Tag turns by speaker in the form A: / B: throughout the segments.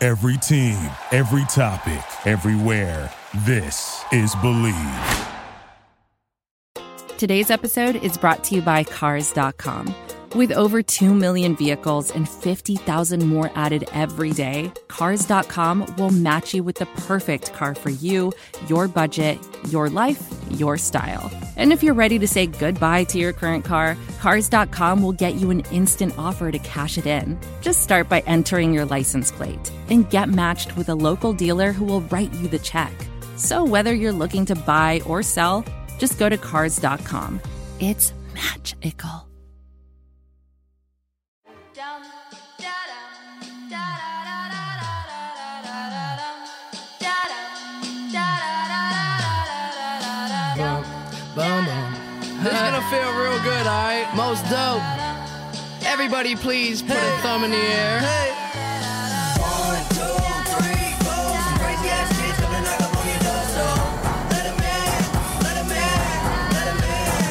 A: Every team, every topic, everywhere. This is Believe.
B: Today's episode is brought to you by Cars.com. With over 2 million vehicles and 50,000 more added every day, Cars.com will match you with the perfect car for you, your budget, your life, your style. And if you're ready to say goodbye to your current car, Cars.com will get you an instant offer to cash it in. Just start by entering your license plate and get matched with a local dealer who will write you the check. So whether you're looking to buy or sell, just go to Cars.com. It's magical.
C: This is gonna feel real good, alright? Most dope. Everybody please put a thumb in the air.
D: One, two, three, four. Some crazy ass kids coming knock up on your door, so let 'em in, let 'em in, let 'em in.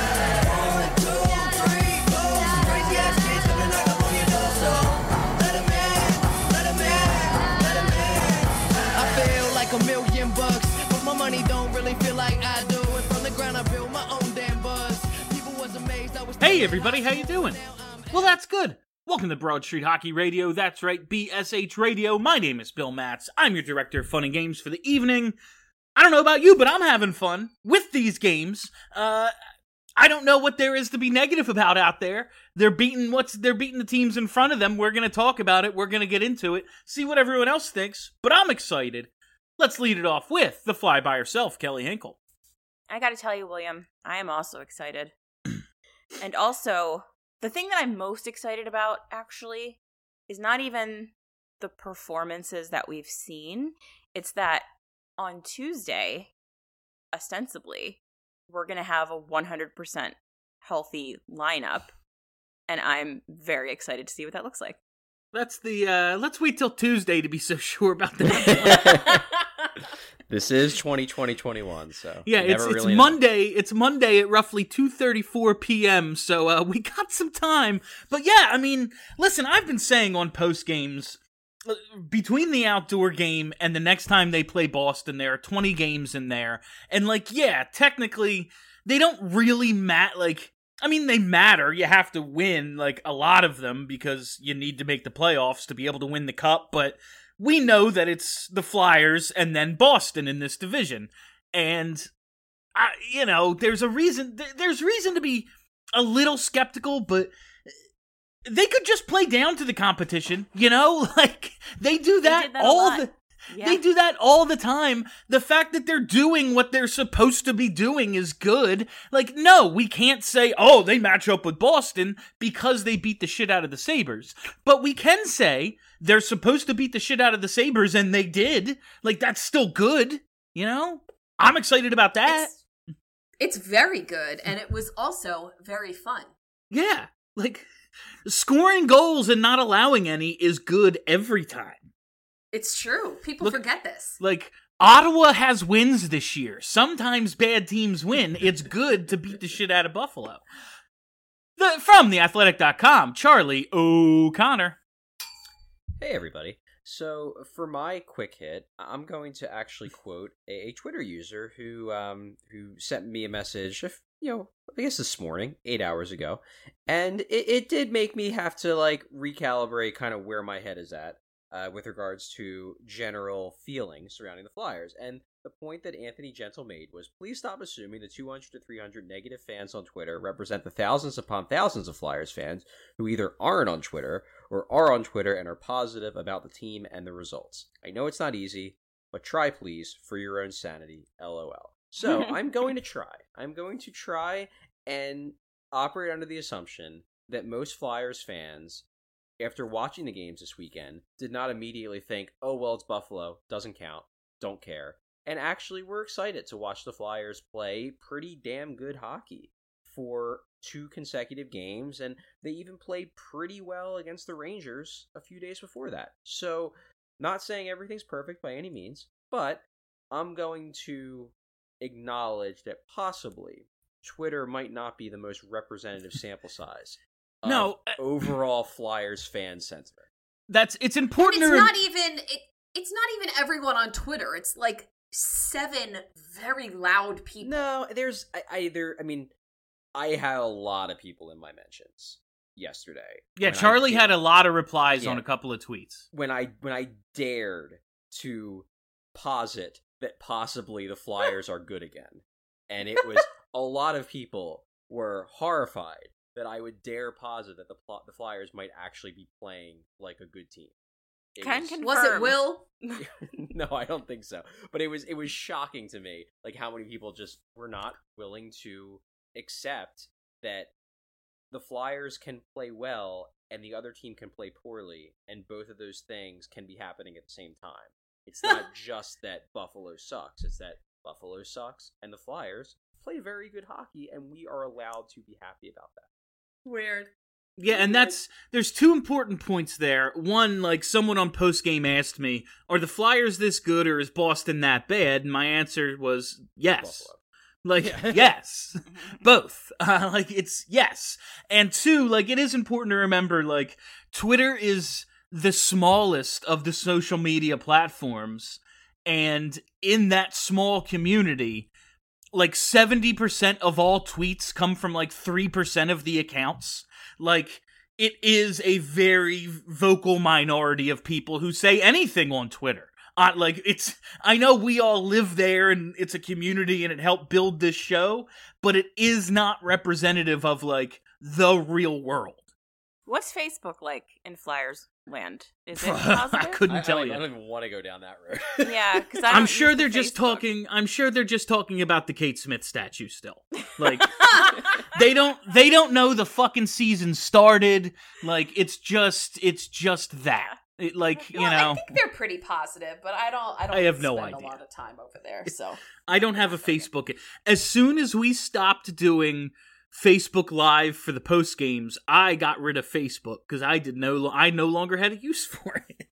D: One, two, three, four. Some crazy ass kids coming knock up on your door, so let 'em in, let 'em in, let 'em in.
C: I feel like $1,000,000, but my money don't really feel like I do. And from the ground I built my own damn buzz. People was amazed I was.
E: Hey everybody, how you doing? Well, that's good. Welcome to Broad Street Hockey Radio. That's right, BSH Radio. My name is Bill Matz. I'm your director of fun and games for the evening. I don't know about you, but I'm having fun with these games. I don't know what there is to be negative about out there. They're beating the teams in front of them. We're going to talk about it. We're going to get into it. See what everyone else thinks. But I'm excited. Let's lead it off with the fly by herself, Kelly Hinkle.
F: I gotta tell you, William, I am also excited. And also, the thing that I'm most excited about, actually, is not even the performances that we've seen. It's that on Tuesday, ostensibly, we're going to have a 100% healthy lineup. And I'm very excited to see what that looks like.
E: That's let's wait till Tuesday to be so sure about that.
G: This is 2020-21, so
E: yeah, it's
G: really
E: Monday. It's Monday at roughly 2:34 p.m. So we got some time. But yeah, I mean, listen, I've been saying on post games between the outdoor game and the next time they play Boston, there are 20 games in there, and like, yeah, technically they don't really matter. Like, I mean, they matter. You have to win like a lot of them because you need to make the playoffs to be able to win the cup, but we know that it's the Flyers and then Boston in this division. And, there's reason to be a little skeptical, but they could just play down to the competition, like they do that, They do that all the time. The fact that they're doing what they're supposed to be doing is good. Like, no, we can't say, oh, they match up with Boston because they beat the shit out of the Sabres. But we can say they're supposed to beat the shit out of the Sabres, and they did. Like, that's still good, I'm excited about that.
H: It's very good, and it was also very fun.
E: Yeah, like, scoring goals and not allowing any is good every time.
H: It's true. People forget this.
E: Like, Ottawa has wins this year. Sometimes bad teams win. It's good to beat the shit out of Buffalo. From theathletic.com, Charlie O'Connor.
G: Hey, everybody. So, for my quick hit, I'm going to actually quote a Twitter user who sent me a message, I guess this morning, 8 hours ago. And it did make me have to, recalibrate kind of where my head is at. With regards to general feelings surrounding the Flyers. And the point that Anthony Gentle made was, please stop assuming the 200 to 300 negative fans on Twitter represent the thousands upon thousands of Flyers fans who either aren't on Twitter or are on Twitter and are positive about the team and the results. I know it's not easy, but try please for your own sanity, LOL. So I'm going to try. I'm going to try and operate under the assumption that most Flyers fans, after watching the games this weekend, did not immediately think, oh, well, it's Buffalo, doesn't count, don't care. And actually were excited to watch the Flyers play pretty damn good hockey for 2 consecutive games, and they even played pretty well against the Rangers a few days before that. So, not saying everything's perfect by any means, but I'm going to acknowledge that possibly Twitter might not be the most representative sample size of overall Flyers fan sentiment.
E: it's
H: And
E: important
H: it's
E: to
H: not even it's not even everyone on Twitter. It's like 7 very loud people.
G: No, there's I mean, I had a lot of people in my mentions yesterday.
E: Yeah,
G: when I
E: Charlie
G: did-
E: had a lot of replies on
G: Yeah.
E: a couple of tweets.
G: when I dared to posit that possibly the Flyers are good again. And it was a lot of people were horrified that I would dare posit that the Flyers might actually be playing like a good team. It
F: Can
G: was-
F: confirm.
H: Was it Will?
G: no, I don't think so. But it was shocking to me, like how many people just were not willing to accept that the Flyers can play well and the other team can play poorly, and both of those things can be happening at the same time. It's not just that Buffalo sucks; it's that Buffalo sucks and the Flyers play very good hockey, and we are allowed to be happy about that.
H: Weird.
E: Yeah, and there's 2 important points there. One, like someone on postgame asked me, are the Flyers this good or is Boston that bad? And my answer was yes.
G: Buffalo.
E: Like, yes. Both. Like, it's yes. And 2, like, it is important to remember, like, Twitter is the smallest of the social media platforms. And in that small community, like, 70% of all tweets come from, like, 3% of the accounts. Like, it is a very vocal minority of people who say anything on Twitter. I know we all live there and it's a community and it helped build this show, but it is not representative of, like, the real world.
F: What's Facebook like in Flyers land? Is it
E: I
F: positive?
E: couldn't tell you.
G: I don't even want to go down that road.
F: Yeah, because
E: I'm sure they're just talking about the Kate Smith statue still. Like, they don't know the fucking season started. Like, it's just that. You
H: Well,
E: know,
H: I think they're pretty positive, but I don't
E: I have no
H: spend
E: idea.
H: a lot of time over there. So
E: I don't have a Facebook. As soon as we stopped doing Facebook Live for the post games, I got rid of Facebook because I no longer had a use for it.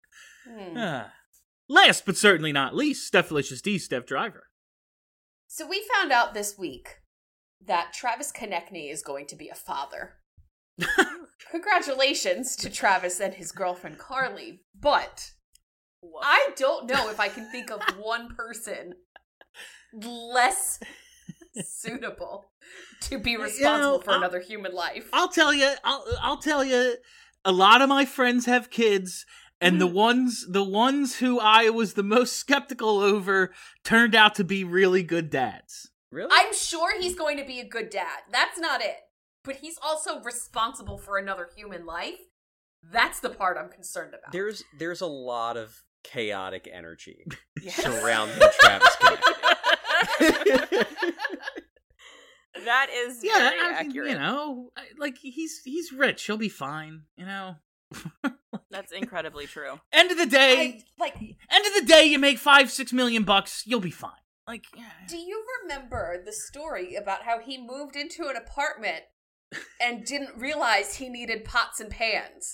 E: Last but certainly not least, Stephalicious D, Steph Driver.
H: So we found out this week that Travis Konechny is going to be a father. Congratulations to Travis and his girlfriend Carly, but I don't know if I can think of one person less suitable to be responsible for another human life.
E: I'll tell you. A lot of my friends have kids, and the ones who I was the most skeptical over turned out to be really good dads.
G: Really?
H: I'm sure he's going to be a good dad. That's not it. But he's also responsible for another human life. That's the part I'm concerned about.
G: There's a lot of chaotic energy
F: Yes.
G: surrounding Travis Konechny.
F: That is
E: Yeah,
F: very
E: I mean,
F: accurate.
E: you know, like he's rich. He'll be fine. You know.
F: That's incredibly true.
E: End of the day, you make $5-6 million bucks. You'll be fine. Like, yeah.
H: Do you remember the story about how he moved into an apartment and didn't realize he needed pots and pans?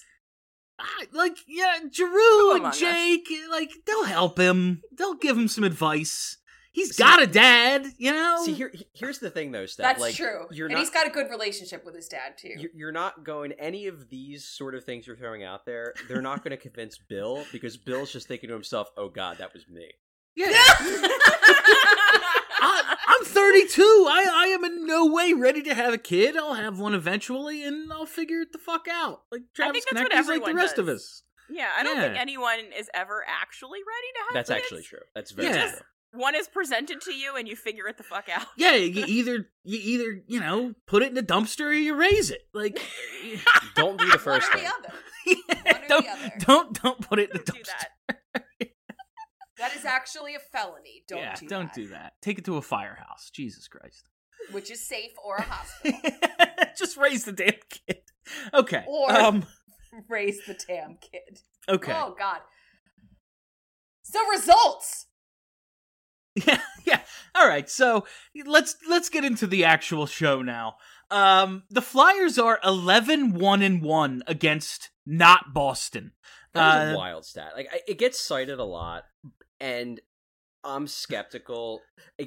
E: Giroux and
F: Among Us.
E: Jake, like, they'll help him. They'll give him some advice. He's got a dad, you know?
G: See, here's the thing, though, Steph.
H: That's
G: like,
H: true.
G: You're
H: And
G: not,
H: he's got a good relationship with his dad, too.
G: you're not going, any of these sort of things you're throwing out there, they're not going to convince Bill, because Bill's just thinking to himself, oh god, that was me.
E: Yeah. I'm 32. I am in no way ready to have a kid. I'll have one eventually, and I'll figure it the fuck out. Like, Travis
F: that's what
E: Konechny's like the
F: everyone
E: rest of
F: does.
E: us.
F: Yeah, I don't
E: Yeah.
F: think anyone is ever actually ready to have
G: That's
F: kids.
G: actually true. That's very
E: Yeah.
G: true.
F: One is presented to you and you figure it the fuck out.
E: Yeah, you either you know, put it in a dumpster or you raise it. Like,
G: Don't do the first
H: One or
G: thing.
H: the other. One or the other.
E: don't put it in the
F: Don't do
E: dumpster.
F: that.
H: That is actually a felony.
E: Don't do that. Take it to a firehouse. Jesus Christ.
H: Which is safe, or a hospital.
E: Just raise the damn kid. Okay.
H: Or raise the damn kid.
E: Okay.
H: Oh, God. So, results!
E: Yeah. All right. So let's get into the actual show now. The Flyers are 11-1-1 against not Boston.
G: That was a wild stat. Like, it gets cited a lot, and I'm skeptical. Like,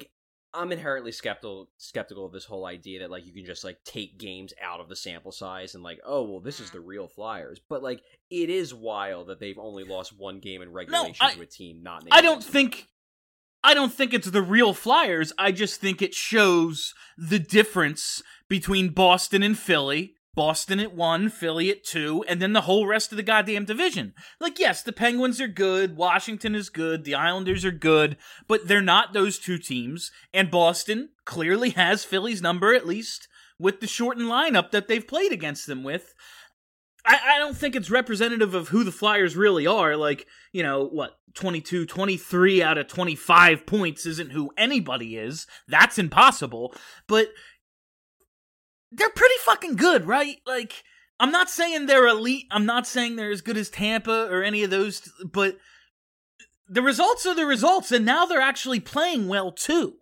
G: I'm inherently skeptical of this whole idea that like you can just like take games out of the sample size and like, oh well, this is the real Flyers. But like it is wild that they've only lost one game in regulation to a team not named.
E: I don't think it's the real Flyers. I just think it shows the difference between Boston and Philly. Boston at 1, Philly at 2, and then the whole rest of the goddamn division. Like, yes, the Penguins are good, Washington is good, the Islanders are good, but they're not those two teams, and Boston clearly has Philly's number, at least with the shortened lineup that they've played against them with. I don't think it's representative of who the Flyers really are. Like, 22, 23 out of 25 points isn't who anybody is. That's impossible. But they're pretty fucking good, right? Like, I'm not saying they're elite. I'm not saying they're as good as Tampa or any of those, but the results are the results, and now they're actually playing well, too.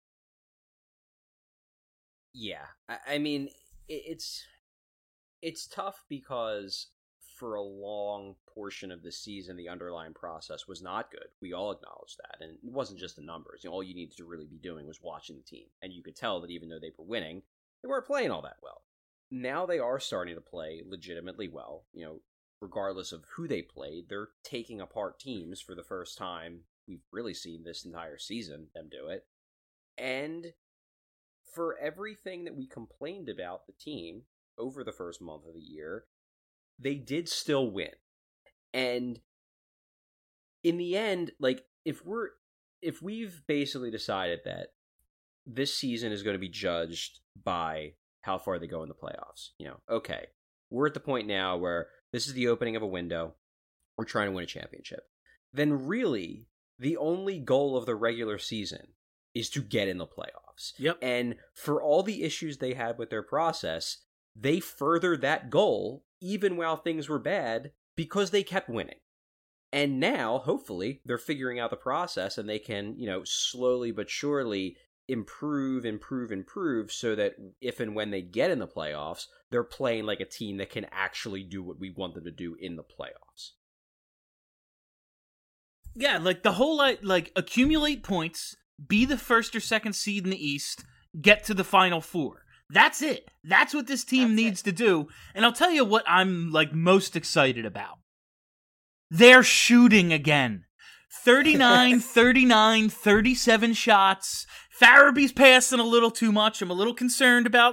G: Yeah. I mean, it's tough because for a long portion of the season, the underlying process was not good. We all acknowledge that. And it wasn't just the numbers. All you needed to really be doing was watching the team. And you could tell that even though they were winning, they weren't playing all that well. Now they are starting to play legitimately well. Regardless of who they played, they're taking apart teams for the first time we've really seen this entire season, them do it. And for everything that we complained about the team over the first month of the year, they did still win. And in the end, like, if we've basically decided that this season is going to be judged by how far they go in the playoffs, okay, we're at the point now where this is the opening of a window, we're trying to win a championship, then really the only goal of the regular season is to get in the playoffs.
E: Yep.
G: And for all the issues they had with their process, they furthered that goal even while things were bad because they kept winning. And now, hopefully, they're figuring out the process and they can, slowly but surely improve so that if and when they get in the playoffs, they're playing like a team that can actually do what we want them to do in the playoffs.
E: Yeah, like the whole, like accumulate points, be the first or second seed in the East, get to the Final Four. That's it. That's what this team needs to do. And I'll tell you what I'm like most excited about. They're shooting again. 39, 39, 37 shots. Farabee's passing a little too much. I'm a little concerned about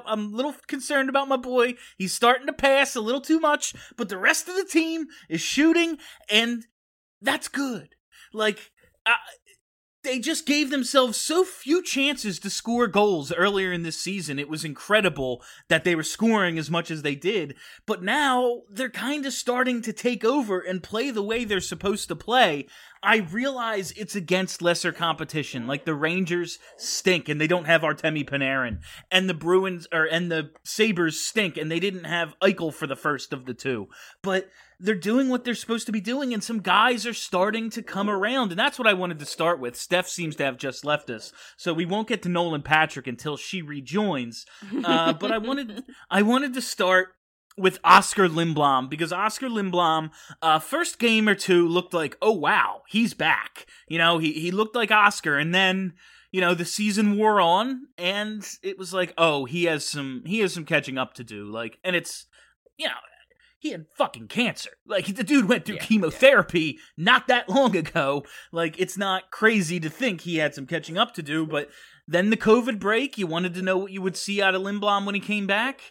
E: my boy. He's starting to pass a little too much, but the rest of the team is shooting, and that's good. Like, they just gave themselves so few chances to score goals earlier in this season. It was incredible that they were scoring as much as they did. But now they're kind of starting to take over and play the way they're supposed to play. I realize it's against lesser competition. Like the Rangers stink and they don't have Artemi Panarin. And the the Sabres stink and they didn't have Eichel for the first of the two. But they're doing what they're supposed to be doing, and some guys are starting to come around, and that's what I wanted to start with. Steph seems to have just left us, so we won't get to Nolan Patrick until she rejoins. But I wanted to start with Oscar Lindblom, because Oscar Lindblom, first game or two looked like, oh wow, he's back. He looked like Oscar, and then the season wore on, and it was like, oh, he has some catching up to do. Like, and it's he had fucking cancer. Like, the dude went through chemotherapy not that long ago. Like, it's not crazy to think he had some catching up to do, but then the COVID break, you wanted to know what you would see out of Lindblom when he came back.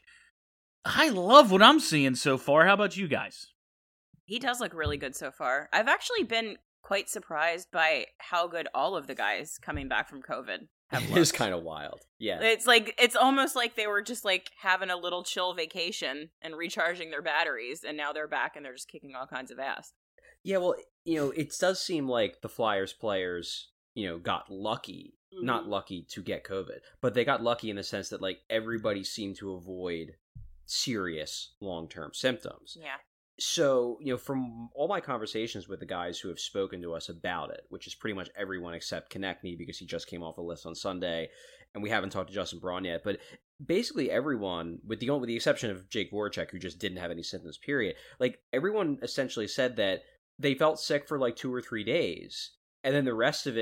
E: I love what I'm seeing so far. How about you guys?
F: He does look really good so far. I've actually been quite surprised by how good all of the guys coming back from COVID have looked.
G: It is kind of wild. Yeah.
F: It's almost like they were just like having a little chill vacation and recharging their batteries, and now they're back and they're just kicking all kinds of ass.
G: Yeah, well, it does seem like the Flyers players, got lucky. Mm-hmm. Not lucky to get COVID, but they got lucky in the sense that like everybody seemed to avoid serious long-term symptoms.
F: Yeah.
G: So, from all my conversations with the guys who have spoken to us about it, which is pretty much everyone except Konechny because he just came off a list on Sunday, and we haven't talked to Justin Braun yet, but basically everyone, with the exception of Jake Voracek, who just didn't have any symptoms, period, like everyone essentially said that they felt sick for like 2 or 3 days, and then the rest of it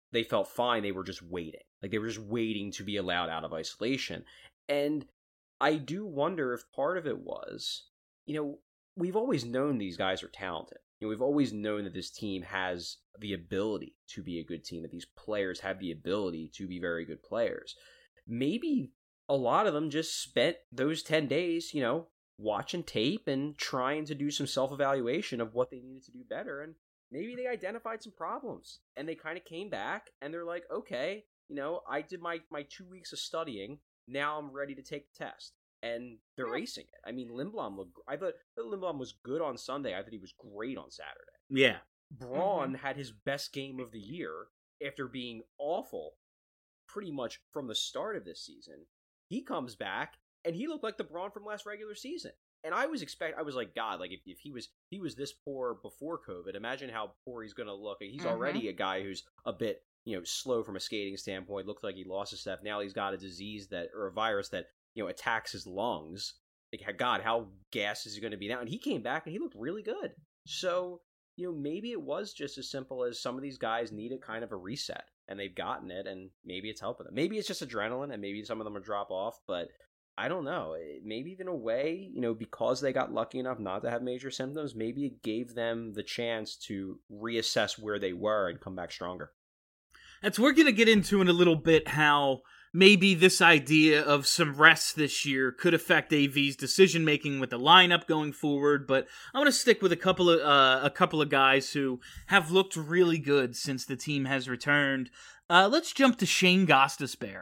G: they felt fine. They were just waiting. Like, they were just waiting to be allowed out of isolation. And I do wonder if part of it was, we've always known these guys are talented. We've always known that this team has the ability to be a good team, that these players have the ability to be very good players. Maybe a lot of them just spent those 10 days, watching tape and trying to do some self-evaluation of what they needed to do better. And maybe they identified some problems and they kind of came back and they're like, okay, I did my 2 weeks of studying. Now I'm ready to take the test. And they're acing it. I mean, I thought Lindblom was good on Sunday. I thought he was great on Saturday.
E: Yeah.
G: Braun had his best game of the year after being awful pretty much from the start of this season. He comes back and he looked like the Braun from last regular season. And I was like, God, like if he was this poor before COVID, imagine how poor he's going to look. He's already a guy who's a bit, slow from a skating standpoint. Looked like he lost his step. Now he's got a disease or a virus that, attacks his lungs. Like, God, how gassed is he going to be now? And he came back and he looked really good. So, maybe it was just as simple as some of these guys needed kind of a reset and they've gotten it, and maybe it's helping them. Maybe it's just adrenaline and maybe some of them will drop off, but I don't know. Maybe in a way, because they got lucky enough not to have major symptoms, maybe it gave them the chance to reassess where they were and come back stronger.
E: We're going to get into in a little bit how maybe this idea of some rest this year could affect AV's decision making with the lineup going forward, but I want to stick with a couple of guys who have looked really good since the team has returned. Let's jump to Shane Gostisbehere.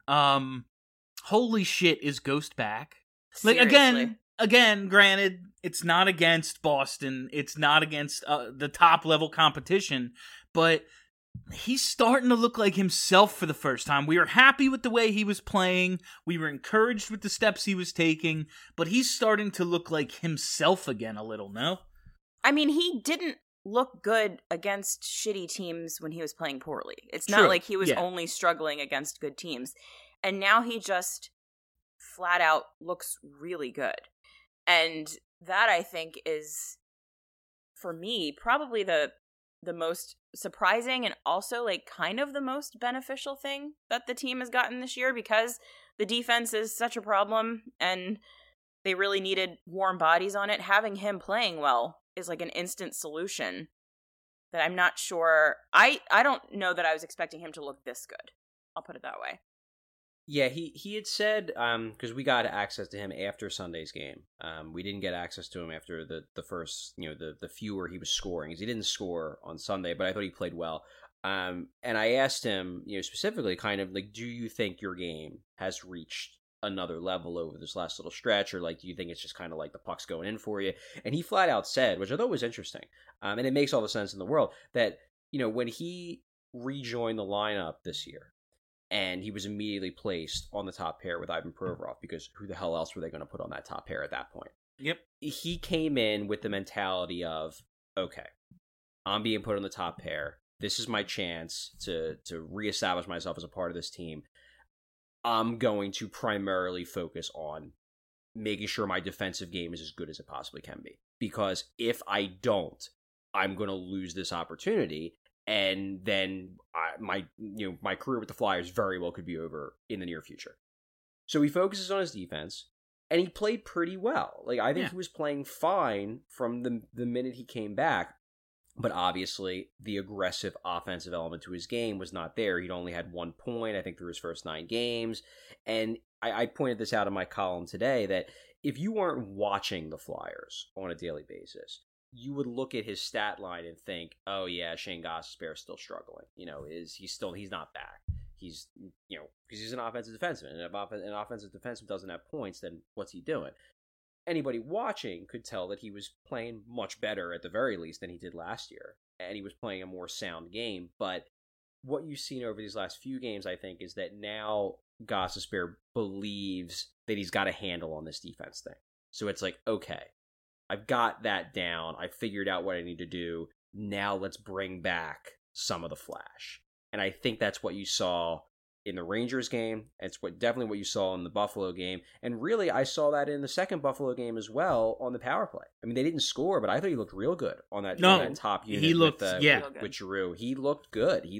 E: Holy shit, is Ghost back? Like, again, granted, it's not against Boston, it's not against the top level competition, but he's starting to look like himself for the first time. We were happy with the way he was playing. We were encouraged with the steps he was taking, but he's starting to look like himself again a little, no?
F: I mean, he didn't look good against shitty teams when he was playing poorly. It's not like he was only struggling against good teams. And now he just flat out looks really good. And that, I think, is, for me, probably the most surprising and also like kind of the most beneficial thing that the team has gotten this year, because the defense is such a problem and they really needed warm bodies on it. Having him playing well is like an instant solution that I'm not sure. I don't know that I was expecting him to look this good. I'll put it that way.
G: Yeah, he had said, because we got access to him after Sunday's game. We didn't get access to him after the first, the few where he was scoring, because he didn't score on Sunday, but I thought he played well. And I asked him, specifically kind of like, do you think your game has reached another level over this last little stretch, or like, do you think it's just kind of like the puck's going in for you? And he flat out said, which I thought was interesting, and it makes all the sense in the world, that, when he rejoined the lineup this year, and he was immediately placed on the top pair with Ivan Provorov, because who the hell else were they going to put on that top pair at that point?
E: Yep.
G: He came in with the mentality of, okay, I'm being put on the top pair. This is my chance to reestablish myself as a part of this team. I'm going to primarily focus on making sure my defensive game is as good as it possibly can be. Because if I don't, I'm going to lose this opportunity. And then my career with the Flyers very well could be over in the near future. So he focuses on his defense, and he played pretty well. Like, I think he was playing fine from the minute he came back, but obviously the aggressive offensive element to his game was not there. He'd only had 1 point, I think, through his first 9 games. And I pointed this out in my column today, that if you weren't watching the Flyers on a daily basis, you would look at his stat line and think, oh yeah, Shane Gostisbehere is still struggling. He's not back. He's, because he's an offensive defenseman, and if an offensive defenseman doesn't have points, then what's he doing? Anybody watching could tell that he was playing much better at the very least than he did last year, and he was playing a more sound game. But what you've seen over these last few games, I think, is that now Gostisbehere believes that he's got a handle on this defense thing. So it's like, okay, I've got that down. I figured out what I need to do. Now let's bring back some of the flash. And I think that's what you saw in the Rangers game. It's definitely what you saw in the Buffalo game. And really, I saw that in the second Buffalo game as well on the power play. I mean, they didn't score, but I thought he looked real good on that top unit.
E: He looked,
G: with Giroux. He looked good. He looked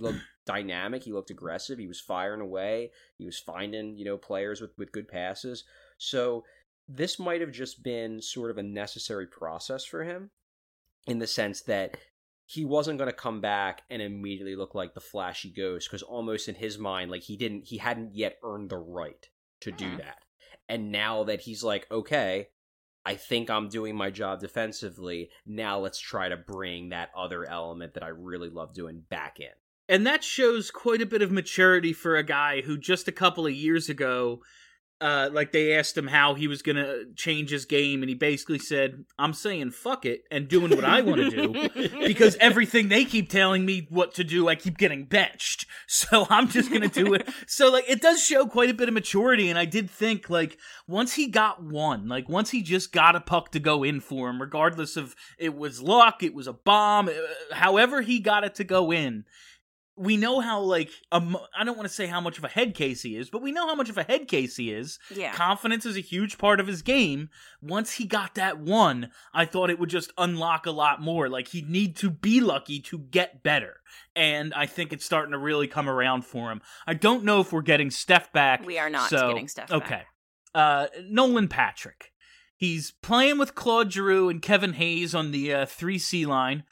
G: dynamic. He looked aggressive. He was firing away. He was finding, players with good passes. So this might have just been sort of a necessary process for him, in the sense that he wasn't going to come back and immediately look like the flashy ghost, because almost in his mind, like he hadn't yet earned the right to do that. And now that he's like, okay, I think I'm doing my job defensively, now let's try to bring that other element that I really love doing back in.
E: And that shows quite a bit of maturity for a guy who just a couple of years ago, they asked him how he was going to change his game, and he basically said, I'm saying fuck it and doing what I want to do, because everything they keep telling me what to do, I keep getting benched. So I'm just going to do it. So, it does show quite a bit of maturity, and I did think, once he got one, once he just got a puck to go in for him, regardless of it was luck, it was a bomb, however he got it to go in, we know how, I don't want to say how much of a head case he is, but we know how much of a head case he is.
F: Yeah.
E: Confidence is a huge part of his game. Once he got that one, I thought it would just unlock a lot more. He'd need to be lucky to get better. And I think it's starting to really come around for him. I don't know if we're getting Steph back.
F: We are not getting Steph back.
E: Okay. Nolan Patrick. He's playing with Claude Giroux and Kevin Hayes on the 3C line.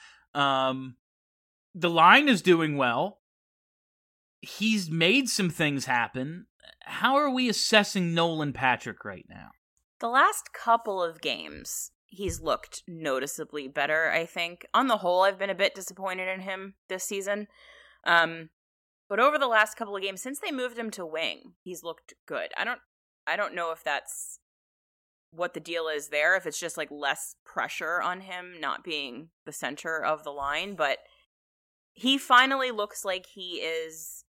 E: The line is doing well. He's made some things happen. How are we assessing Nolan Patrick right now?
F: The last couple of games, he's looked noticeably better, I think. On the whole, I've been a bit disappointed in him this season. But over the last couple of games, since they moved him to wing, he's looked good. I don't know if that's what the deal is there, if it's just less pressure on him not being the center of the line, but he finally looks like he is.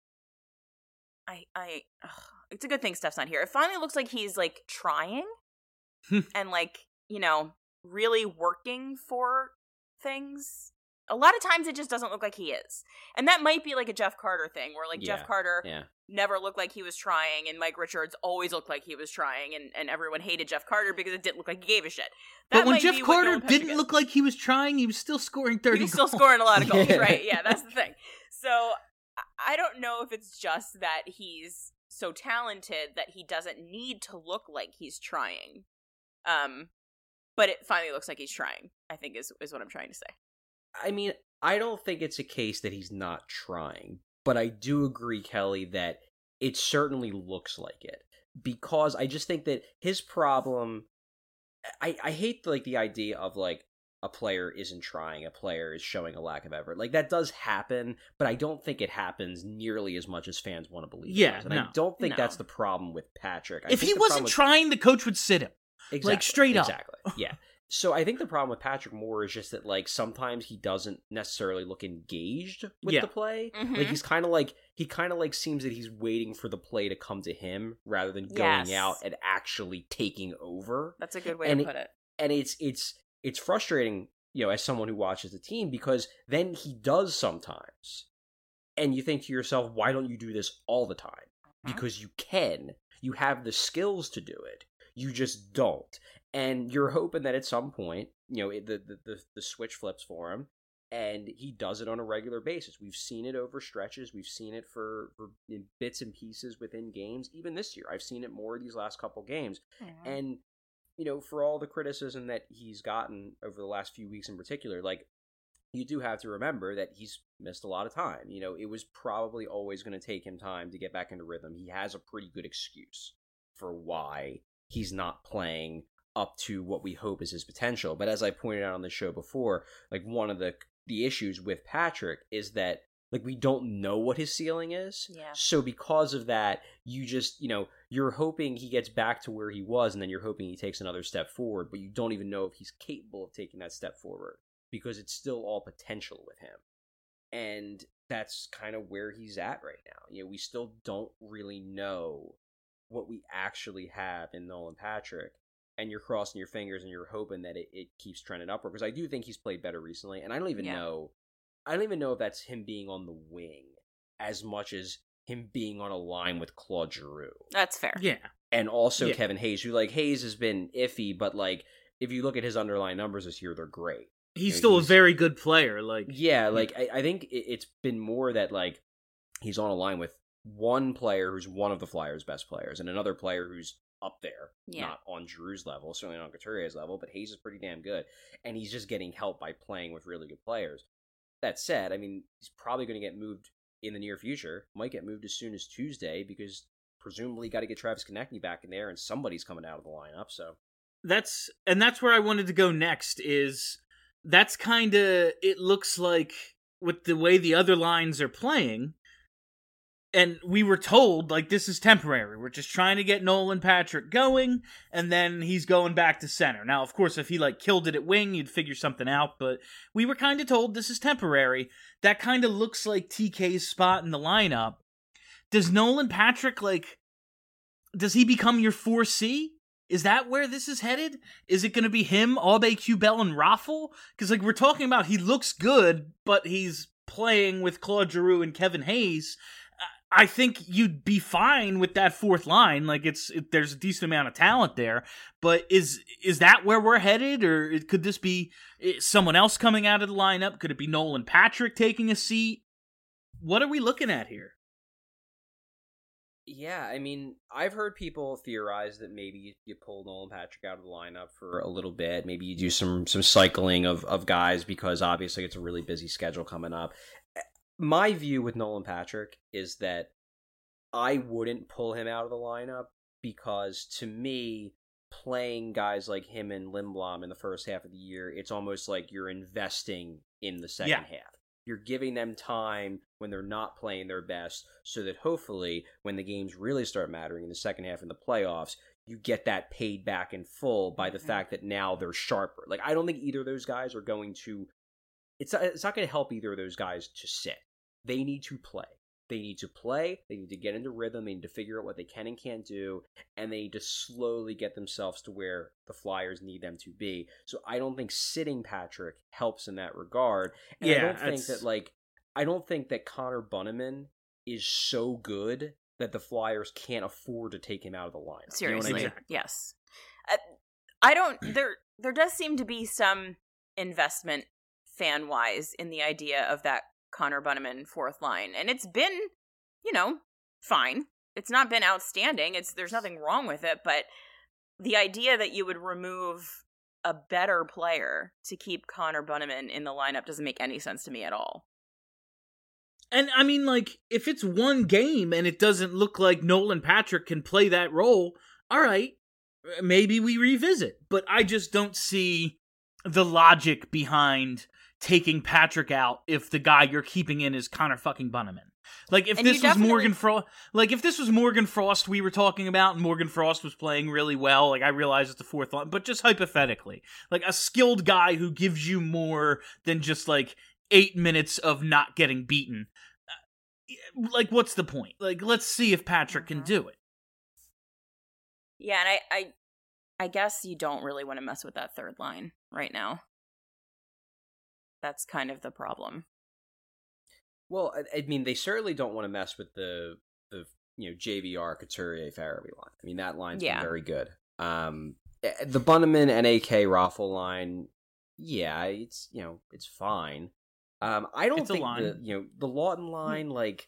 F: It's a good thing Steph's not here. It finally looks like he's trying and really working for things. A lot of times it just doesn't look like he is, and that might be a Jeff Carter thing, where Jeff Carter never looked like he was trying, and Mike Richards always looked like he was trying, and everyone hated Jeff Carter because it didn't look like he gave a shit.
E: But when Jeff Carter didn't look like he was trying, he was still scoring 30 goals.
F: He was still scoring a lot of goals, right? Yeah, that's the thing. So I don't know if it's just that he's so talented that he doesn't need to look like he's trying. But it finally looks like he's trying, I think is what I'm trying to say.
G: I mean, I don't think it's a case that he's not trying, but I do agree, Kelly, that it certainly looks like it. Because I just think that his problem, I hate the idea of a player isn't trying, a player is showing a lack of effort. That does happen, but I don't think it happens nearly as much as fans want to believe.
E: Yeah,
G: and I don't think that's the problem with Patrick.
E: If he wasn't trying, the coach would sit him.
G: Exactly,
E: straight up.
G: Exactly, yeah. So I think the problem with Patrick Moore is just that sometimes he doesn't necessarily look engaged with the play.
F: Mm-hmm.
G: He's kind of seems that he's waiting for the play to come to him rather than going out and actually taking over.
F: That's a good way to put it.
G: And it's frustrating, as someone who watches the team, because then he does sometimes. And you think to yourself, why don't you do this all the time? Because you can. You have the skills to do it. You just don't. And you're hoping that at some point, the switch flips for him, and he does it on a regular basis. We've seen it over stretches. We've seen it for in bits and pieces within games. Even this year, I've seen it more these last couple games. Mm-hmm. And, for all the criticism that he's gotten over the last few weeks in particular, you do have to remember that he's missed a lot of time. It was probably always going to take him time to get back into rhythm. He has a pretty good excuse for why he's not playing up to what we hope is his potential. But as I pointed out on the show before, one of the issues with Patrick is that we don't know what his ceiling is.
F: Yeah.
G: So because of that, you just, you're hoping he gets back to where he was, and then you're hoping he takes another step forward, but you don't even know if he's capable of taking that step forward, because it's still all potential with him. And that's kind of where he's at right now. We still don't really know what we actually have in Nolan Patrick. And you're crossing your fingers and you're hoping that it keeps trending upward, because I do think he's played better recently, and I don't even know if that's him being on the wing as much as him being on a line with Claude Giroux.
F: That's fair.
E: Yeah.
G: And also Kevin Hayes, who Hayes has been iffy, but if you look at his underlying numbers this year, they're great.
E: He's still a very good player.
G: I think it's been more that he's on a line with one player who's one of the Flyers' best players and another player who's up there, not on Drew's level, certainly not on Couturier's level, but Hayes is pretty damn good, and he's just getting help by playing with really good players. That said, I mean, he's probably going to get moved in the near future, might get moved as soon as Tuesday, because presumably got to get Travis Konechny back in there, and somebody's coming out of the lineup, so...
E: That's where I wanted to go next, is that's kind of, it looks like, with the way the other lines are playing, and we were told, like, this is temporary. We're just trying to get Nolan Patrick going, and then he's going back to center. Now, of course, if he, like, killed it at wing, you'd figure something out, but we were kind of told this is temporary. That kind of looks like TK's spot in the lineup. Does Nolan Patrick, like, does he become your 4C? Is that where this is headed? Is it going to be him, Aube, Kubel, and Raffle? Because, like, we're talking about he looks good, but he's playing with Claude Giroux and Kevin Hayes. I think you'd be fine with that fourth line. Like, there's a decent amount of talent there. But is that where we're headed? Or could this be someone else coming out of the lineup? Could it be Nolan Patrick taking a seat? What are we looking at here?
G: Yeah, I mean, I've heard people theorize that maybe you pull Nolan Patrick out of the lineup for a little bit. Maybe you do some cycling of guys, because obviously it's a really busy schedule coming up. My view with Nolan Patrick is that I wouldn't pull him out of the lineup, because to me, playing guys like him and Lindblom in the first half of the year, it's almost like you're investing in the second half. You're giving them time when they're not playing their best, so that hopefully when the games really start mattering in the second half in the playoffs, you get that paid back in full by the fact that now they're sharper. Like, I don't think either of those guys are going to... It's not going to help either of those guys to sit. They need to play. They need to play, they need to get into rhythm, they need to figure out what they can and can't do, and they need to slowly get themselves to where the Flyers need them to be. So I don't think sitting Patrick helps in that regard. And I don't think that Connor Bunnaman is so good that the Flyers can't afford to take him out of the lineup.
F: Seriously,
G: you know what I mean?
F: Yes. I don't... There does seem to be some investment fan-wise in the idea of that Connor Bunnaman fourth line, and it's been, fine. It's not been outstanding. There's nothing wrong with it, but the idea that you would remove a better player to keep Connor Bunnaman in the lineup doesn't make any sense to me at all.
E: And I mean, like, if it's one game and it doesn't look like Nolan Patrick can play that role, all right, maybe we revisit. But I just don't see the logic behind taking Patrick out if the guy you're keeping in is Connor fucking Bunnaman. Like, if this was Morgan Frost, we were talking about, and Morgan Frost was playing really well, like, I realize it's the fourth line, but just hypothetically, like, a skilled guy who gives you more than just, like, 8 minutes of not getting beaten. Like, what's the point? Like, let's see if Patrick can do it.
F: Yeah, and I guess you don't really want to mess with that third line right now. That's kind of the problem.
G: Well, I mean, they certainly don't want to mess with the JVR, Couturier, Farabee line. I mean, that line's been very good. The Bunnaman and AK Raffle line, it's fine. I don't think the Lawton line,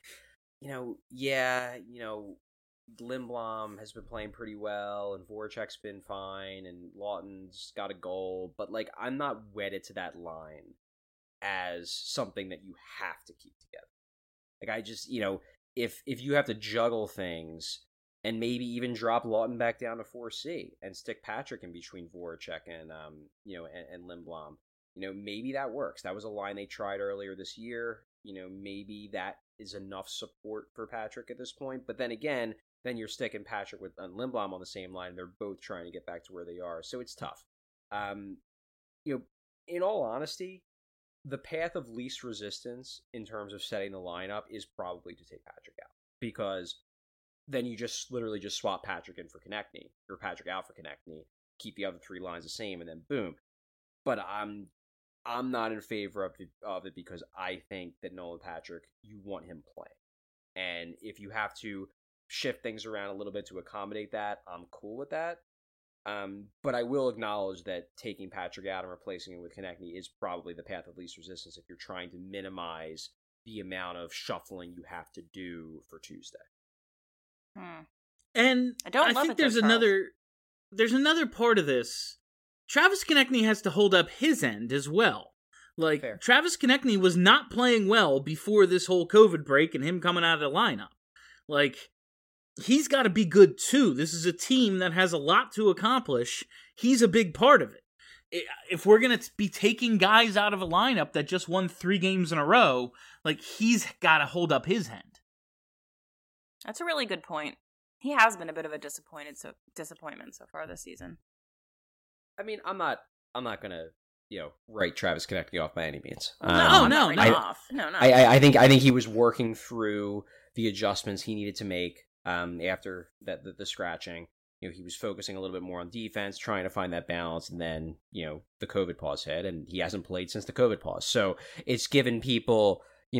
G: Lindblom has been playing pretty well, and Voracek's been fine, and Lawton's got a goal, but, like, I'm not wedded to that line as something that you have to keep together. Like, I just, if you have to juggle things and maybe even drop Lawton back down to 4C and stick Patrick in between Voracek and and Lindblom, maybe that works. That was a line they tried earlier this year. Maybe that is enough support for Patrick at this point. But then again, then you're sticking Patrick and Lindblom on the same line. They're both trying to get back to where they are. So it's tough. In all honesty, the path of least resistance in terms of setting the lineup is probably to take Patrick out, because then you just literally just swap Patrick in for Konechny, or Patrick out for Konechny, keep the other three lines the same, and then boom. But I'm not in favor of it because I think that Nolan Patrick, you want him playing, and if you have to shift things around a little bit to accommodate that, I'm cool with that. But I will acknowledge that taking Patrick out and replacing him with Konechny is probably the path of least resistance if you're trying to minimize the amount of shuffling you have to do for Tuesday.
E: And
F: I
E: think there's another part of this. Travis Konechny has to hold up his end as well. Like,
G: Fair.
E: Travis Konechny was not playing well before this whole COVID break and him coming out of the lineup. Like, he's got to be good too. This is a team that has a lot to accomplish. He's a big part of it. If we're going to be taking guys out of a lineup that just won 3 games in a row, like, he's got to hold up his end.
F: That's a really good point. He has been a bit of a disappointment so far this season.
G: I mean, I'm not gonna, write Travis Konechny off by any means.
F: No.
G: I think he was working through the adjustments he needed to make after the scratching. He was focusing a little bit more on defense, trying to find that balance, and then the COVID pause hit, and he hasn't played since the COVID pause. So it's given people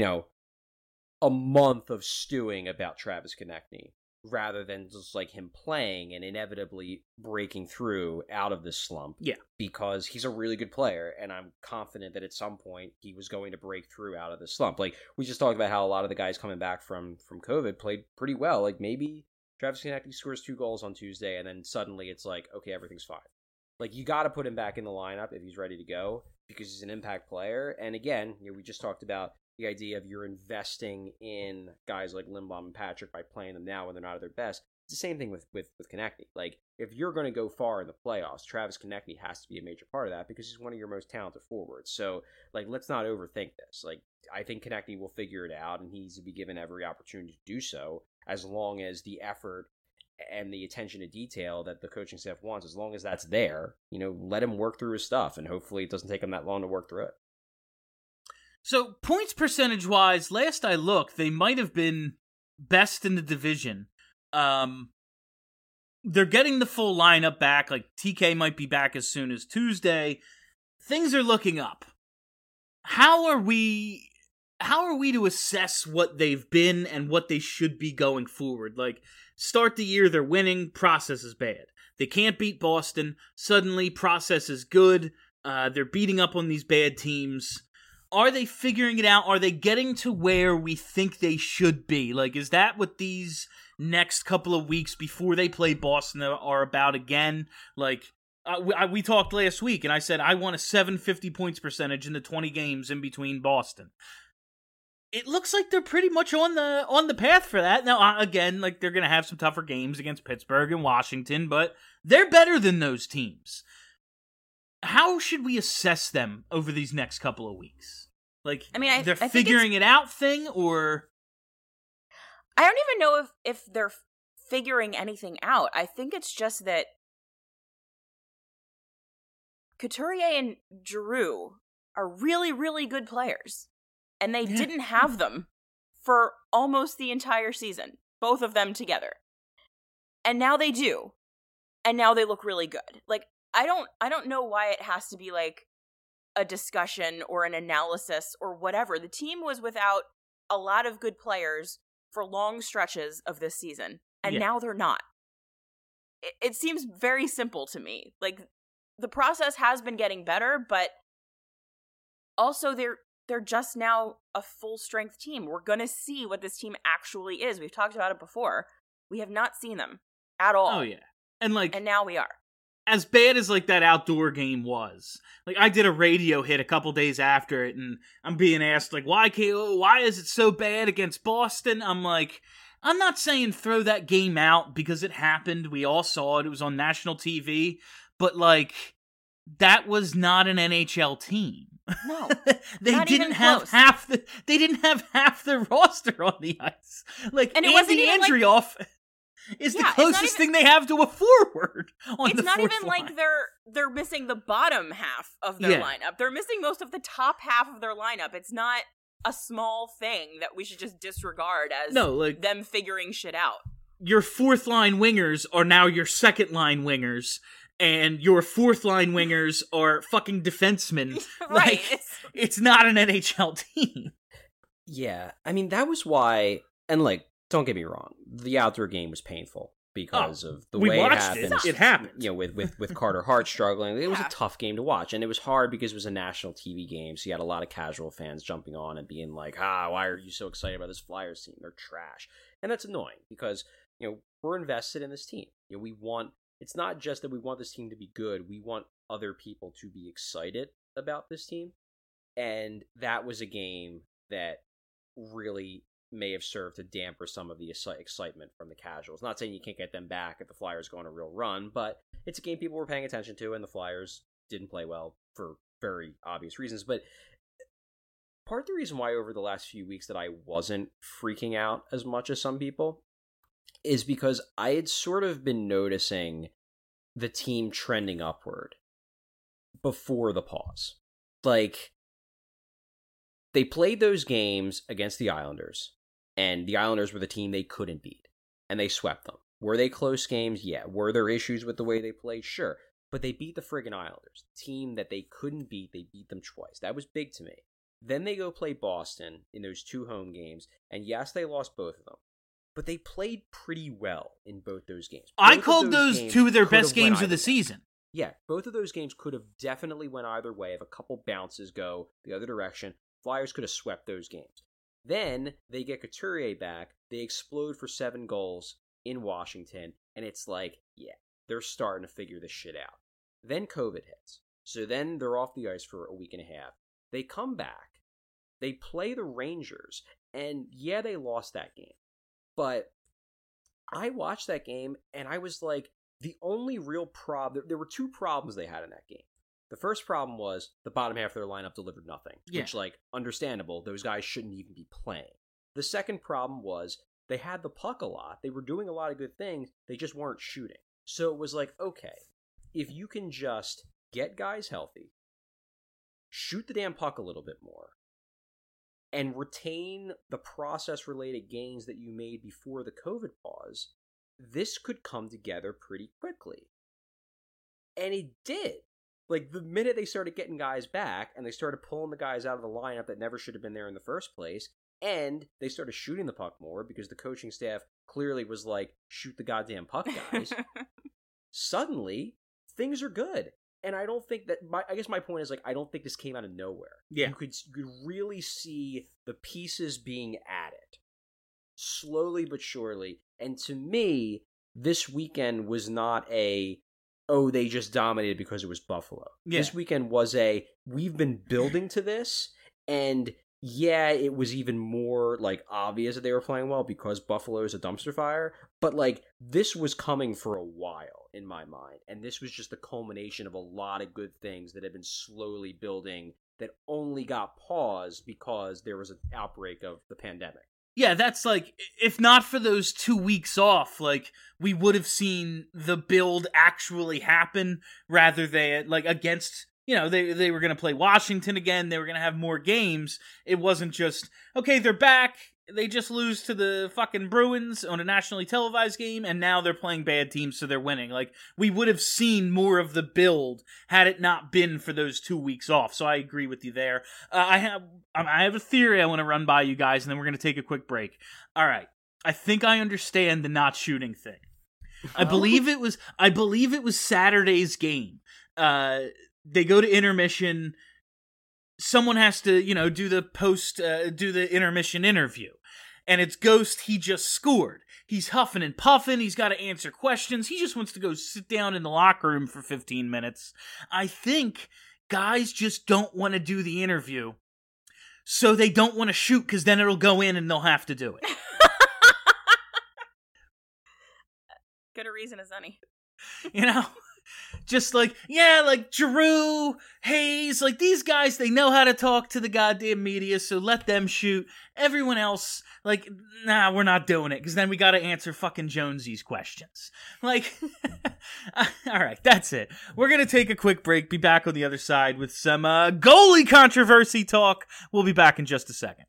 G: a month of stewing about Travis Konechny, rather than just like him playing and inevitably breaking through out of this slump.
E: Yeah.
G: Because he's a really good player, and I'm confident that at some point he was going to break through out of this slump. Like, we just talked about how a lot of the guys coming back from COVID played pretty well. Like, maybe Travis Konechny scores 2 goals on Tuesday, and then suddenly it's like, okay, everything's fine. Like, you got to put him back in the lineup if he's ready to go, because he's an impact player. And again, we just talked about the idea of you're investing in guys like Lindblom and Patrick by playing them now when they're not at their best. It's the same thing with Konechny. Like, if you're going to go far in the playoffs, Travis Konechny has to be a major part of that because he's one of your most talented forwards. So, like, let's not overthink this. Like, I think Konechny will figure it out, and he needs to be given every opportunity to do so, as long as the effort and the attention to detail that the coaching staff wants, as long as that's there, let him work through his stuff, and hopefully it doesn't take him that long to work through it.
E: So, points percentage-wise, last I looked, they might have been best in the division. They're getting the full lineup back. Like, TK might be back as soon as Tuesday. Things are looking up. How are we to assess what they've been and what they should be going forward? Like, start the year, they're winning, process is bad. They can't beat Boston. Suddenly, process is good. They're beating up on these bad teams. Are they figuring it out? Are they getting to where we think they should be? Like, is that what these next couple of weeks before they play Boston are about again? Like, we talked last week, and I said I want a 750 points percentage in the 20 games in between Boston. It looks like they're pretty much on the path for that. Now, again, like, they're going to have some tougher games against Pittsburgh and Washington, but they're better than those teams. How should we assess them over these next couple of weeks? Like,
F: I mean,
E: they're
F: I
E: figuring it out thing, or
F: I don't even know if they're figuring anything out. I think it's just that Couturier and Giroux are really, really good players, and they didn't have them for almost the entire season, both of them together. And now they do. And now they look really good. Like, I don't know why it has to be like a discussion or an analysis or whatever. The team was without a lot of good players for long stretches of this season, and now they're not. It seems very simple to me. Like, the process has been getting better, but also they're just now a full strength team. We're gonna see what this team actually is. We've talked about it before. We have not seen them at all.
E: Oh yeah, and
F: now we are.
E: As bad as like that outdoor game was, like, I did a radio hit a couple days after it, and I'm being asked like, why is it so bad against Boston? I'm like, I'm not saying throw that game out because it happened. We all saw it. It was on national TV, but like, that was not an NHL team.
F: No,
E: they didn't have half the roster on the ice. Like,
F: and
E: it Andy Andrioff is the closest thing they have to a forward on the fourth line. It's not even
F: like they're missing the bottom half of their lineup. They're missing most of the top half of their lineup. It's not a small thing that we should just disregard as them figuring shit out.
E: Your fourth line wingers are now your second line wingers, and your fourth line wingers are fucking defensemen.
F: Right.
E: Like, it's not an NHL team.
G: Yeah, I mean, that was why, and like, don't get me wrong, the outdoor game was painful. because of the
E: we
G: way it
E: watched
G: happened.
E: it happened.
G: You know, with Carter Hart struggling, it was a tough game to watch, and it was hard because it was a national TV game, so you had a lot of casual fans jumping on and being like, why are you so excited about this Flyers team? They're trash. And that's annoying because, you know, we're invested in this team. You know, it's not just that we want this team to be good, we want other people to be excited about this team. And that was a game that really may have served to damper some of the excitement from the casuals. Not saying you can't get them back if the Flyers go on a real run, but it's a game people were paying attention to, and the Flyers didn't play well for very obvious reasons. But part of the reason why over the last few weeks that I wasn't freaking out as much as some people is because I had sort of been noticing the team trending upward before the pause. Like, they played those games against the Islanders, and the Islanders were the team they couldn't beat, and they swept them. Were they close games? Yeah. Were there issues with the way they played? Sure. But they beat the friggin' Islanders, the team that they couldn't beat. They beat them twice. That was big to me. Then they go play Boston in those 2 home games, and yes, they lost both of them, but they played pretty well in both those games.
E: I called those 2 of their best games of the season.
G: Yeah, both of those games could have definitely went either way. If a couple bounces go the other direction, Flyers could have swept those games. Then they get Couturier back. They explode for 7 goals in Washington. And it's like, yeah, they're starting to figure this shit out. Then COVID hits. So then they're off the ice for a week and a half. They come back. They play the Rangers. And yeah, they lost that game. But I watched that game and I was like, the only real problem, there were 2 problems they had in that game. The first problem was the bottom half of their lineup delivered nothing, which, like, understandable. Those guys shouldn't even be playing. The second problem was they had the puck a lot. They were doing a lot of good things. They just weren't shooting. So it was like, okay, if you can just get guys healthy, shoot the damn puck a little bit more, and retain the process-related gains that you made before the COVID pause, this could come together pretty quickly. And it did. Like, the minute they started getting guys back, and they started pulling the guys out of the lineup that never should have been there in the first place, and they started shooting the puck more, because the coaching staff clearly was like, shoot the goddamn puck, guys, suddenly, things are good. And I don't think that, I guess my point is, like, I don't think this came out of nowhere.
E: Yeah.
G: You could really see the pieces being added, slowly but surely. And to me, this weekend was not they just dominated because it was Buffalo. Yeah. This weekend was we've been building to this, and yeah, it was even more, like, obvious that they were playing well because Buffalo is a dumpster fire, but, like, this was coming for a while in my mind, and this was just the culmination of a lot of good things that had been slowly building that only got paused because there was an outbreak of the pandemic.
E: Yeah, that's like, if not for those 2 weeks off, like, we would have seen the build actually happen rather than, like, against, you know, they were going to play Washington again, they were going to have more games. It wasn't just, okay, they're back, they just lose to the fucking Bruins on a nationally televised game, and now they're playing bad teams, so they're winning. Like, we would have seen more of the build had it not been for those 2 weeks off, so I agree with you there. I have a theory I want to run by you guys, and then we're going to take a quick break. All right, I think I understand the not shooting thing. I believe it was Saturday's game. They go to intermission. Someone has to, you know, do the intermission interview. And it's Ghost, he just scored. He's huffing and puffing, he's got to answer questions, he just wants to go sit down in the locker room for 15 minutes. I think guys just don't want to do the interview, so they don't want to shoot, because then it'll go in and they'll have to do it.
F: Good a reason as any.
E: You know? Just like, yeah, like Giroux, Hayes, like these guys, they know how to talk to the goddamn media, so let them shoot. Everyone else, like, nah, we're not doing it, because then we gotta answer fucking Jonesy's questions. Like, alright, that's it. We're gonna take a quick break, be back on the other side with some goalie controversy talk. We'll be back in just a second.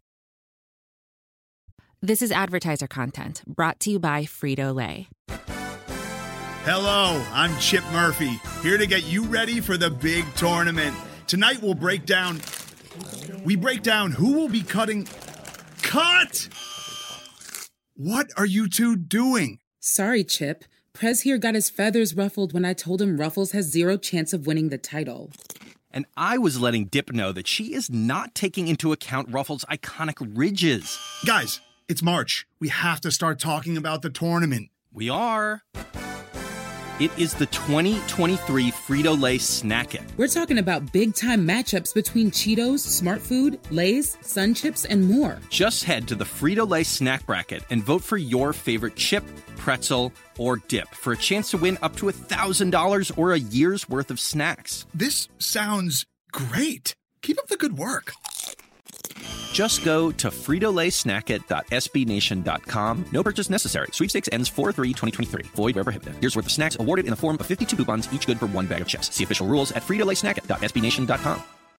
B: This is advertiser content brought to you by Frito-Lay.
I: Hello, I'm Chip Murphy, here to get you ready for the big tournament. Tonight we'll break down who will be cutting... Cut! What are you two doing?
J: Sorry, Chip. Prez here got his feathers ruffled when I told him Ruffles has zero chance of winning the title.
K: And I was letting Dip know that she is not taking into account Ruffles' iconic ridges.
I: Guys, it's March. We have to start talking about the tournament.
K: We are. It is the 2023 Frito-Lay Snack It.
J: We're talking about big-time matchups between Cheetos, Smart Food, Lay's, Sun Chips, and more.
K: Just head to the Frito-Lay Snack Bracket and vote for your favorite chip, pretzel, or dip for a chance to win up to $1,000 or a year's worth of snacks.
I: This sounds great. Keep up the good work.
K: Just go to fritolaysnackit.sbnation.com. No purchase necessary. Sweepstakes ends 4/3/2023. Void where prohibited. Year's worth of snacks awarded in the form of 52 coupons, each good for one bag of chips. See official rules at fritolaysnackit.sbnation.com.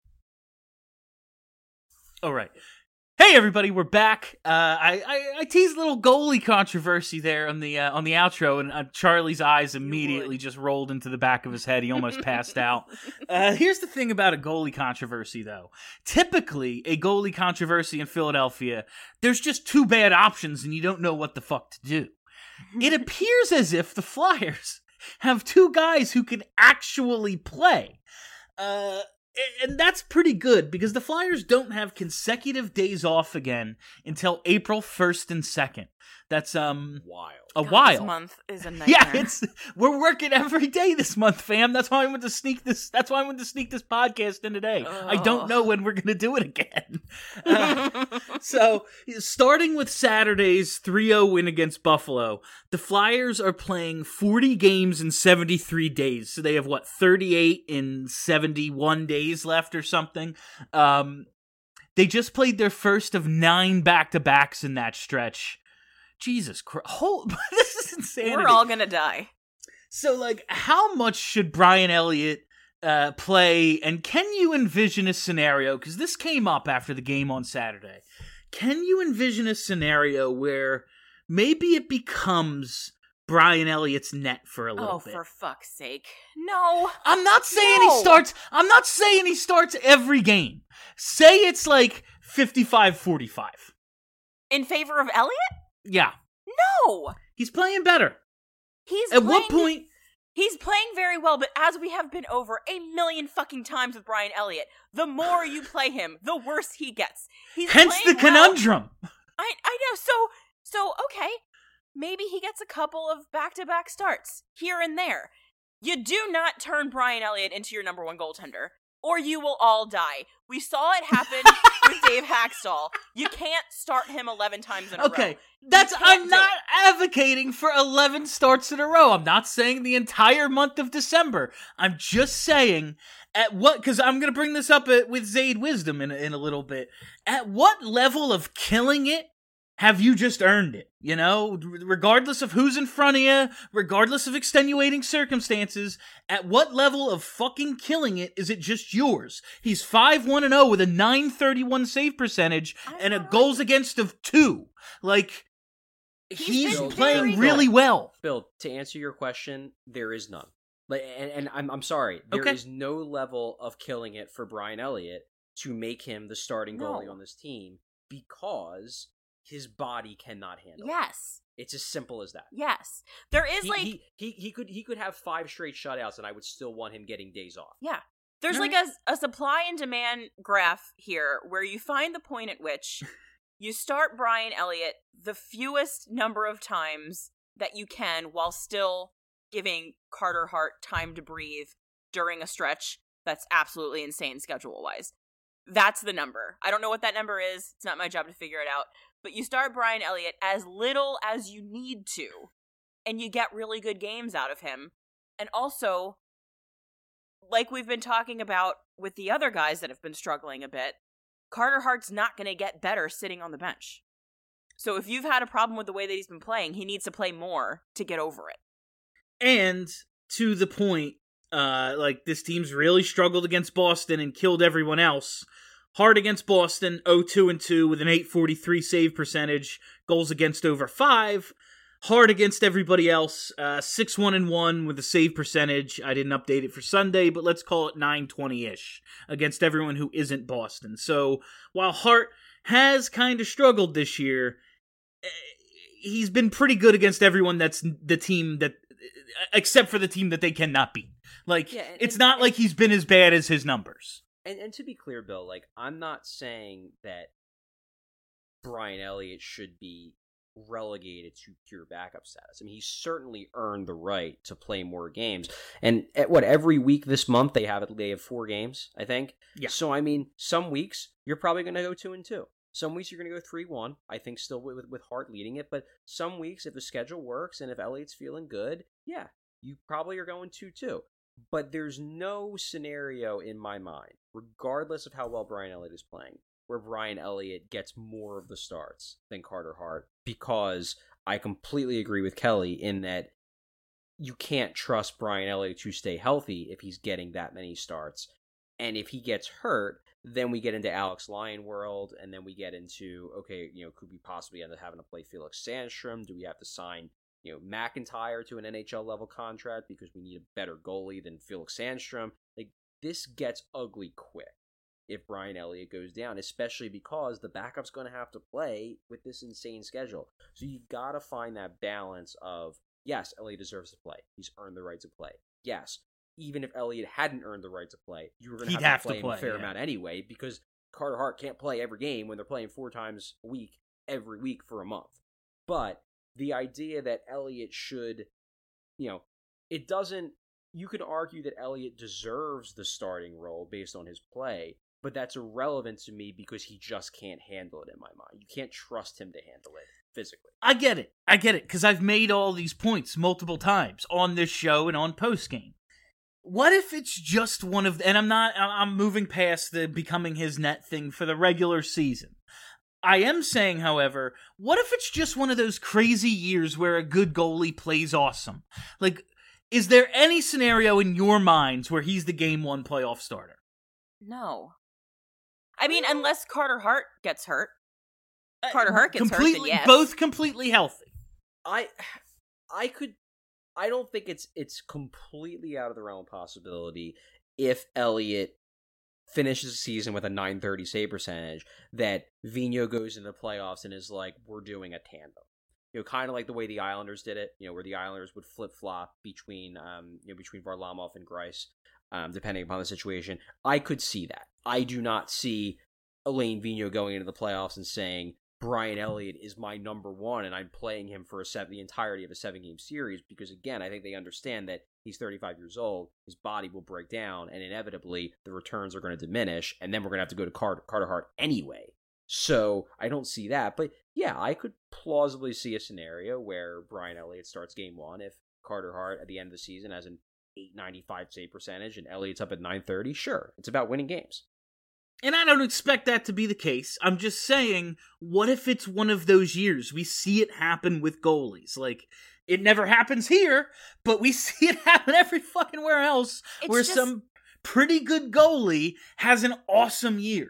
E: All right. Hey everybody, we're back. I teased a little goalie controversy there on the outro, and Charlie's eyes immediately just rolled into the back of his head. He almost passed out. Here's the thing about a goalie controversy, though. Typically, a goalie controversy in Philadelphia, there's just two bad options, and you don't know what the fuck to do. It appears as if the Flyers have two guys who can actually play. And that's pretty good, because the Flyers don't have consecutive days off again until April 1st and 2nd. That's
G: wild.
F: This month is a nightmare.
E: Yeah, we're working every day this month, fam. That's why I went to sneak this podcast in today. I don't know when we're gonna do it again. So, starting with Saturday's 3-0 win against Buffalo, the Flyers are playing 40 games in 73 days. So they have 38 in 71 days left or something. They just played their first of 9 back-to-backs in that stretch. Jesus Christ. This is insanity.
F: We're all gonna die.
E: So, how much should Brian Elliott play, and can you envision a scenario, because this came up after the game on Saturday, can you envision a scenario where maybe it becomes Brian Elliott's net for a little bit?
F: Oh, for fuck's sake. No.
E: I'm not saying he starts every game. Say it's 55-45.
F: In favor of Elliott?
E: Yeah.
F: No!
E: He's playing better. He's playing
F: very well, but as we have been over a million fucking times with Brian Elliott, the more you play him, the worse he gets.
E: Hence the conundrum.
F: I know, so okay. Maybe he gets a couple of back-to-back starts, here and there. You do not turn Brian Elliott into your number one goaltender, or you will all die. We saw it happen with Dave Haxtell. You can't start him 11 times in a row.
E: Okay, I'm not advocating for 11 starts in a row. I'm not saying the entire month of December. I'm just saying, because I'm going to bring this up with Zayd Wisdom in a little bit. At what level of killing it have you just earned it? You know, regardless of who's in front of you, regardless of extenuating circumstances, at what level of fucking killing it is it just yours? He's 5-1-0 with a .931 save percentage and a goals against of 2. He's playing really well.
G: Bill, to answer your question, there is none. And I'm sorry, there is no level of killing it for Brian Elliott to make him the starting goalie on this team, because his body cannot handle it.
F: Yes.
G: It's as simple as that.
F: Yes. There is
G: he could have 5 straight shutouts and I would still want him getting days off.
F: Yeah. There's a supply and demand graph here where you find the point at which you start Brian Elliott the fewest number of times that you can while still giving Carter Hart time to breathe during a stretch that's absolutely insane schedule-wise. That's the number. I don't know what that number is. It's not my job to figure it out. But you start Brian Elliott as little as you need to, and you get really good games out of him. And also, like we've been talking about with the other guys that have been struggling a bit, Carter Hart's not going to get better sitting on the bench. So if you've had a problem with the way that he's been playing, he needs to play more to get over it.
E: And to the point, this team's really struggled against Boston and killed everyone else. Hard against Boston, 0-2-2 with an .843 save percentage, goals against over 5. Hard against everybody else, 6-1-1 with a save percentage. I didn't update it for Sunday, but let's call it .920-ish against everyone who isn't Boston. So while Hart has kind of struggled this year, he's been pretty good against everyone that's the team except for the team that they cannot beat. Like,
G: Yeah,
E: it's not like he's been as bad as his numbers.
G: And to be clear, Bill, like, I'm not saying that Brian Elliott should be relegated to pure backup status. I mean, he's certainly earned the right to play more games. And every week this month they have 4 games, I think.
E: Yeah.
G: So I mean, some weeks you're probably going to go 2-2. Some weeks you're going to go 3-1. I think still with Hart leading it. But some weeks, if the schedule works and if Elliott's feeling good, yeah, you probably are going 2-2. But there's no scenario in my mind, regardless of how well Brian Elliott is playing, where Brian Elliott gets more of the starts than Carter Hart, because I completely agree with Kelly in that you can't trust Brian Elliott to stay healthy if he's getting that many starts. And if he gets hurt, then we get into Alex Lyon world, and then we get into, okay, could we possibly end up having to play Felix Sandstrom? Do we have to sign, McIntyre to an NHL level contract because we need a better goalie than Felix Sandstrom? Like, this gets ugly quick if Brian Elliott goes down, especially because the backup's going to have to play with this insane schedule. So you got to find that balance of, yes, Elliott deserves to play. He's earned the right to play. Yes, even if Elliott hadn't earned the right to play, you were going to have to play him a fair amount anyway, because Carter Hart can't play every game when they're playing 4 times a week, every week for a month. But the idea that Elliott should, it doesn't, you can argue that Elliott deserves the starting role based on his play, but that's irrelevant to me because he just can't handle it in my mind. You can't trust him to handle it physically.
E: I get it, because I've made all these points multiple times on this show and on postgame. What if it's just one of, and I'm moving past the becoming his net thing for the regular season. I am saying, however, what if it's just one of those crazy years where a good goalie plays awesome? Like, is there any scenario in your minds where he's the game 1 playoff starter?
F: No. I mean, unless Carter Hart gets hurt. Carter Hart gets hurt, then yes.
E: Both completely healthy.
G: I don't think it's completely out of the realm of possibility if Elliott finishes the season with a .930 save percentage that Vigneault goes into the playoffs and is like, we're doing a tandem. Kind of like the way the Islanders did it, where the Islanders would flip-flop between Varlamov and Greiss, depending upon the situation. I could see that. I do not see Alain Vigneault going into the playoffs and saying, Brian Elliott is my number 1, and I'm playing him for the entirety of a 7-game series, because, again, I think they understand that he's 35 years old, his body will break down, and inevitably the returns are going to diminish, and then we're going to have to go to Carter Hart anyway. So I don't see that, but yeah, I could plausibly see a scenario where Brian Elliott starts game 1 if Carter Hart at the end of the season has an .895 save percentage and Elliott's up at .930. Sure, it's about winning games.
E: And I don't expect that to be the case. I'm just saying, what if it's one of those years? We see it happen with goalies. Like, it never happens here, but we see it happen every fucking where else, where some pretty good goalie has an awesome year.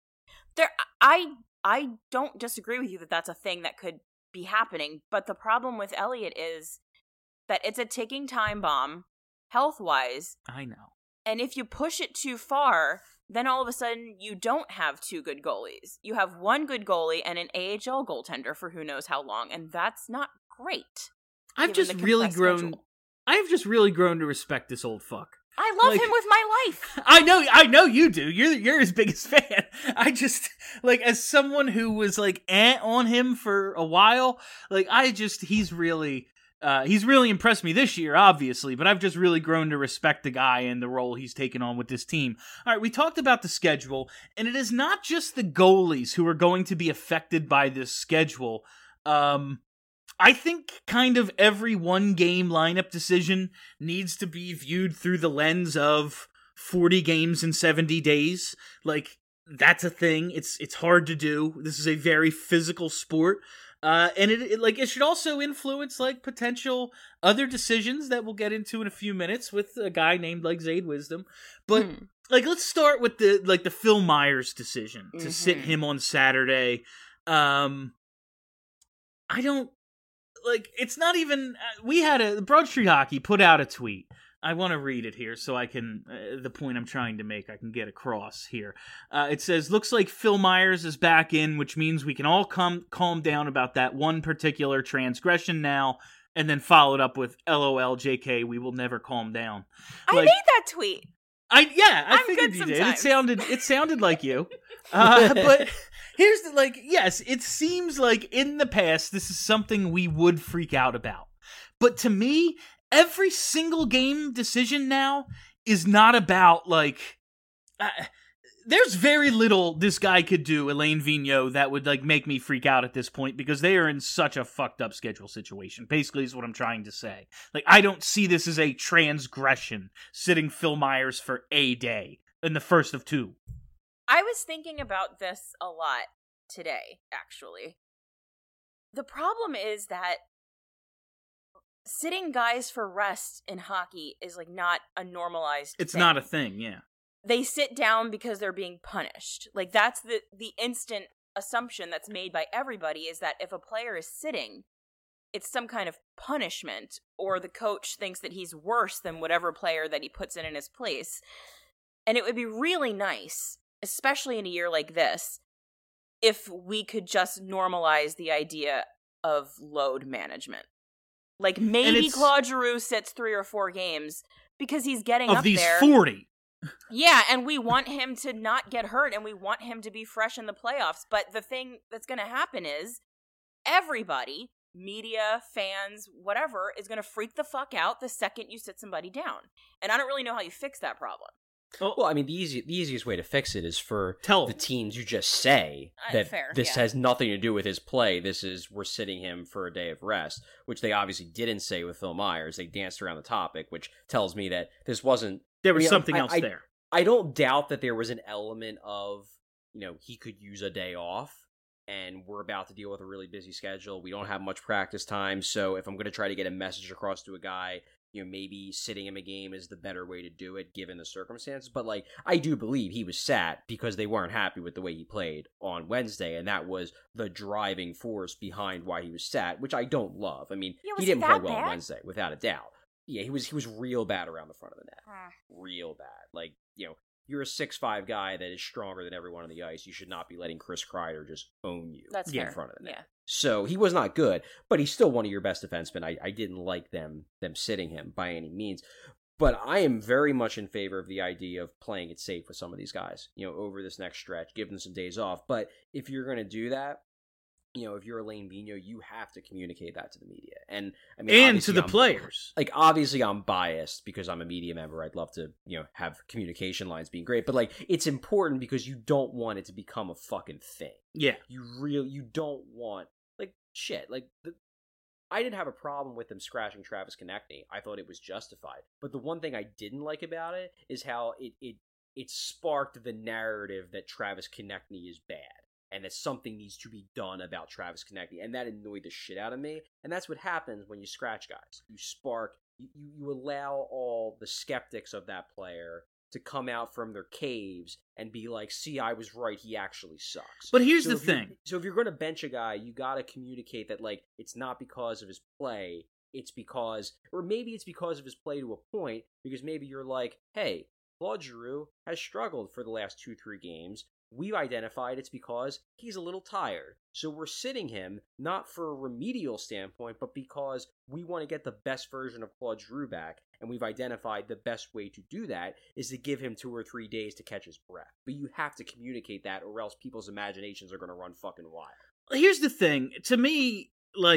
F: I don't disagree with you that that's a thing that could be happening, but the problem with Elliott is that it's a ticking time bomb, health-wise.
E: I know.
F: And if you push it too far, then all of a sudden you don't have 2 good goalies. You have 1 good goalie and an AHL goaltender for who knows how long, and that's not great.
E: I've just really grown to respect this old fuck.
F: I love him with my life.
E: I know you do. You're his biggest fan. I just, as someone who was on him for a while, he's really impressed me this year, obviously, but I've just really grown to respect the guy and the role he's taken on with this team. All right, we talked about the schedule, and it is not just the goalies who are going to be affected by this schedule. I think kind of every 1-game lineup decision needs to be viewed through the lens of 40 games in 70 days. That's a thing. It's hard to do. This is a very physical sport. And it should also influence potential other decisions that we'll get into in a few minutes with a guy named Zaid Wisdom. But let's start with the Phil Myers decision to sit him on Saturday. I don't it's not even. We had Broad Street Hockey put out a tweet. I want to read it here so I can, the point I'm trying to make, I can get across here. It says, looks like Phil Myers is back in, which means we can all calm down about that one particular transgression now. and then followed up with LOL JK, we will never calm down.
F: I made that tweet.
E: I
F: I'm
E: figured
F: good
E: you did.
F: sometimes.
E: It sounded like you. But here's the, yes, it seems like in the past this is something we would freak out about. But to me, every single game decision now is not about there's very little this guy could do, Elaine Vigneault, that would make me freak out at this point, because they are in such a fucked up schedule situation. Basically is what I'm trying to say. I don't see this as a transgression, sitting Phil Myers for a day in the first of 2.
F: I was thinking about this a lot today, actually. The problem is that sitting guys for rest in hockey is not a normalized
E: It's
F: thing.
E: not a thing, yeah.
F: They sit down because they're being punished. That's the instant assumption that's made by everybody, is that if a player is sitting, it's some kind of punishment, or the coach thinks that he's worse than whatever player that he puts in his place. And it would be really nice, especially in a year like this, if we could just normalize the idea of load management. Maybe Claude Giroux sits 3 or 4 games because he's getting up there.
E: Of these 40.
F: Yeah, and we want him to not get hurt, and we want him to be fresh in the playoffs. But the thing that's going to happen is everybody, media, fans, whatever, is going to freak the fuck out the second you sit somebody down. And I don't really know how you fix that problem.
G: Well, I mean, the easiest way to fix it is for the teams you just say that this has nothing to do with his play. We're sitting him for a day of rest, which they obviously didn't say with Phil Myers. They danced around the topic, which tells me that this wasn't...
E: There was something else there.
G: I don't doubt that there was an element of, he could use a day off, and we're about to deal with a really busy schedule. We don't have much practice time, so if I'm going to try to get a message across to a guy, maybe sitting him a game is the better way to do it given the circumstances. But, I do believe he was sat because they weren't happy with the way he played on Wednesday, and that was the driving force behind why he was sat, which I don't love. I mean, he didn't play well on Wednesday, without a doubt. Yeah, he was real bad around the front of the net. Real bad. You're a 6'5" guy that is stronger than everyone on the ice. You should not be letting Chris Kreider just own you in front of the net. Yeah. So he was not good, but he's still one of your best defensemen. I didn't like them sitting him by any means. But I am very much in favor of the idea of playing it safe with some of these guys, over this next stretch, give them some days off. But if you're going to do that, if you're Elaine Vigneault, you have to communicate that to the media. And I mean,
E: and to the players.
G: Obviously I'm biased because I'm a media member. I'd love to, have communication lines being great, but it's important because you don't want it to become a fucking thing.
E: Yeah.
G: You don't want, shit. I didn't have a problem with them scratching Travis Konechny. I thought it was justified. But the one thing I didn't like about it is how it sparked the narrative that Travis Konechny is bad, and that something needs to be done about Travis Konechny, and that annoyed the shit out of me. And that's what happens when you scratch guys. You allow all the skeptics of that player to come out from their caves and be like, see, I was right, he actually sucks.
E: But here's the thing.
G: So if you're going to bench a guy, you got to communicate that, it's not because of his play, it's because, or maybe it's because of his play to a point, because maybe you're like, hey, Claude Giroux has struggled for the last 2-3 games. We've identified it's because he's a little tired. So we're sitting him, not for a remedial standpoint, but because we want to get the best version of Claude Giroux back, and we've identified the best way to do that is to give him 2 or 3 days to catch his breath. But you have to communicate that, or else people's imaginations are going to run fucking wild.
E: Here's the thing. To me,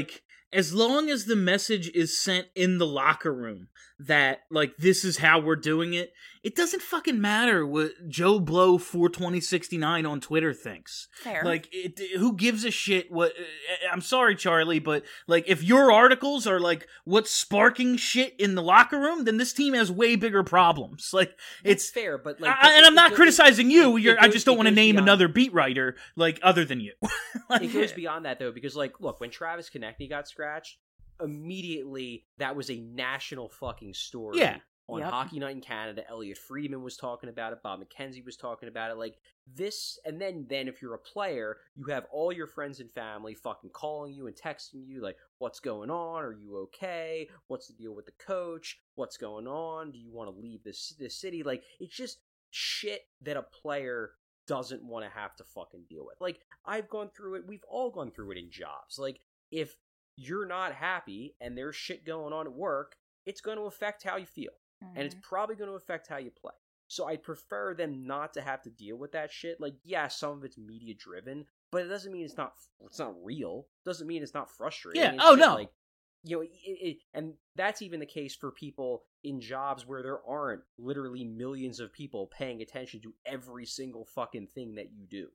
E: as long as the message is sent in the locker room that, this is how we're doing it, it doesn't fucking matter what Joe Blow 42069 on Twitter thinks.
F: Fair.
E: Who gives a shit what... I'm sorry, Charlie, but, if your articles are, what's sparking shit in the locker room, then this team has way bigger problems. It's
G: fair, but...
E: and I'm not criticizing you. I just don't want to name another beat writer, other than you.
G: It goes beyond that, though, because, look, when Travis Konechny got scratched, immediately that was a national fucking story.
E: Yeah.
G: On Hockey Night in Canada, Elliot Friedman was talking about it, Bob McKenzie was talking about it, this, and then if you're a player, you have all your friends and family fucking calling you and texting you, what's going on, are you okay, what's the deal with the coach, what's going on, do you want to leave this city, it's just shit that a player doesn't want to have to fucking deal with. I've gone through it, we've all gone through it in jobs, if you're not happy and there's shit going on at work, it's going to affect how you feel. And it's probably going to affect how you play. So I'd prefer them not to have to deal with that shit. Like, yeah, some of it's media driven, but it doesn't mean it's not real. Doesn't mean it's not frustrating.
E: Yeah.
G: It's
E: Oh,
G: just
E: no.
G: Like, you know, and that's even the case for people in jobs where there aren't literally millions of people paying attention to every single fucking thing that you do.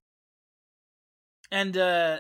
E: And,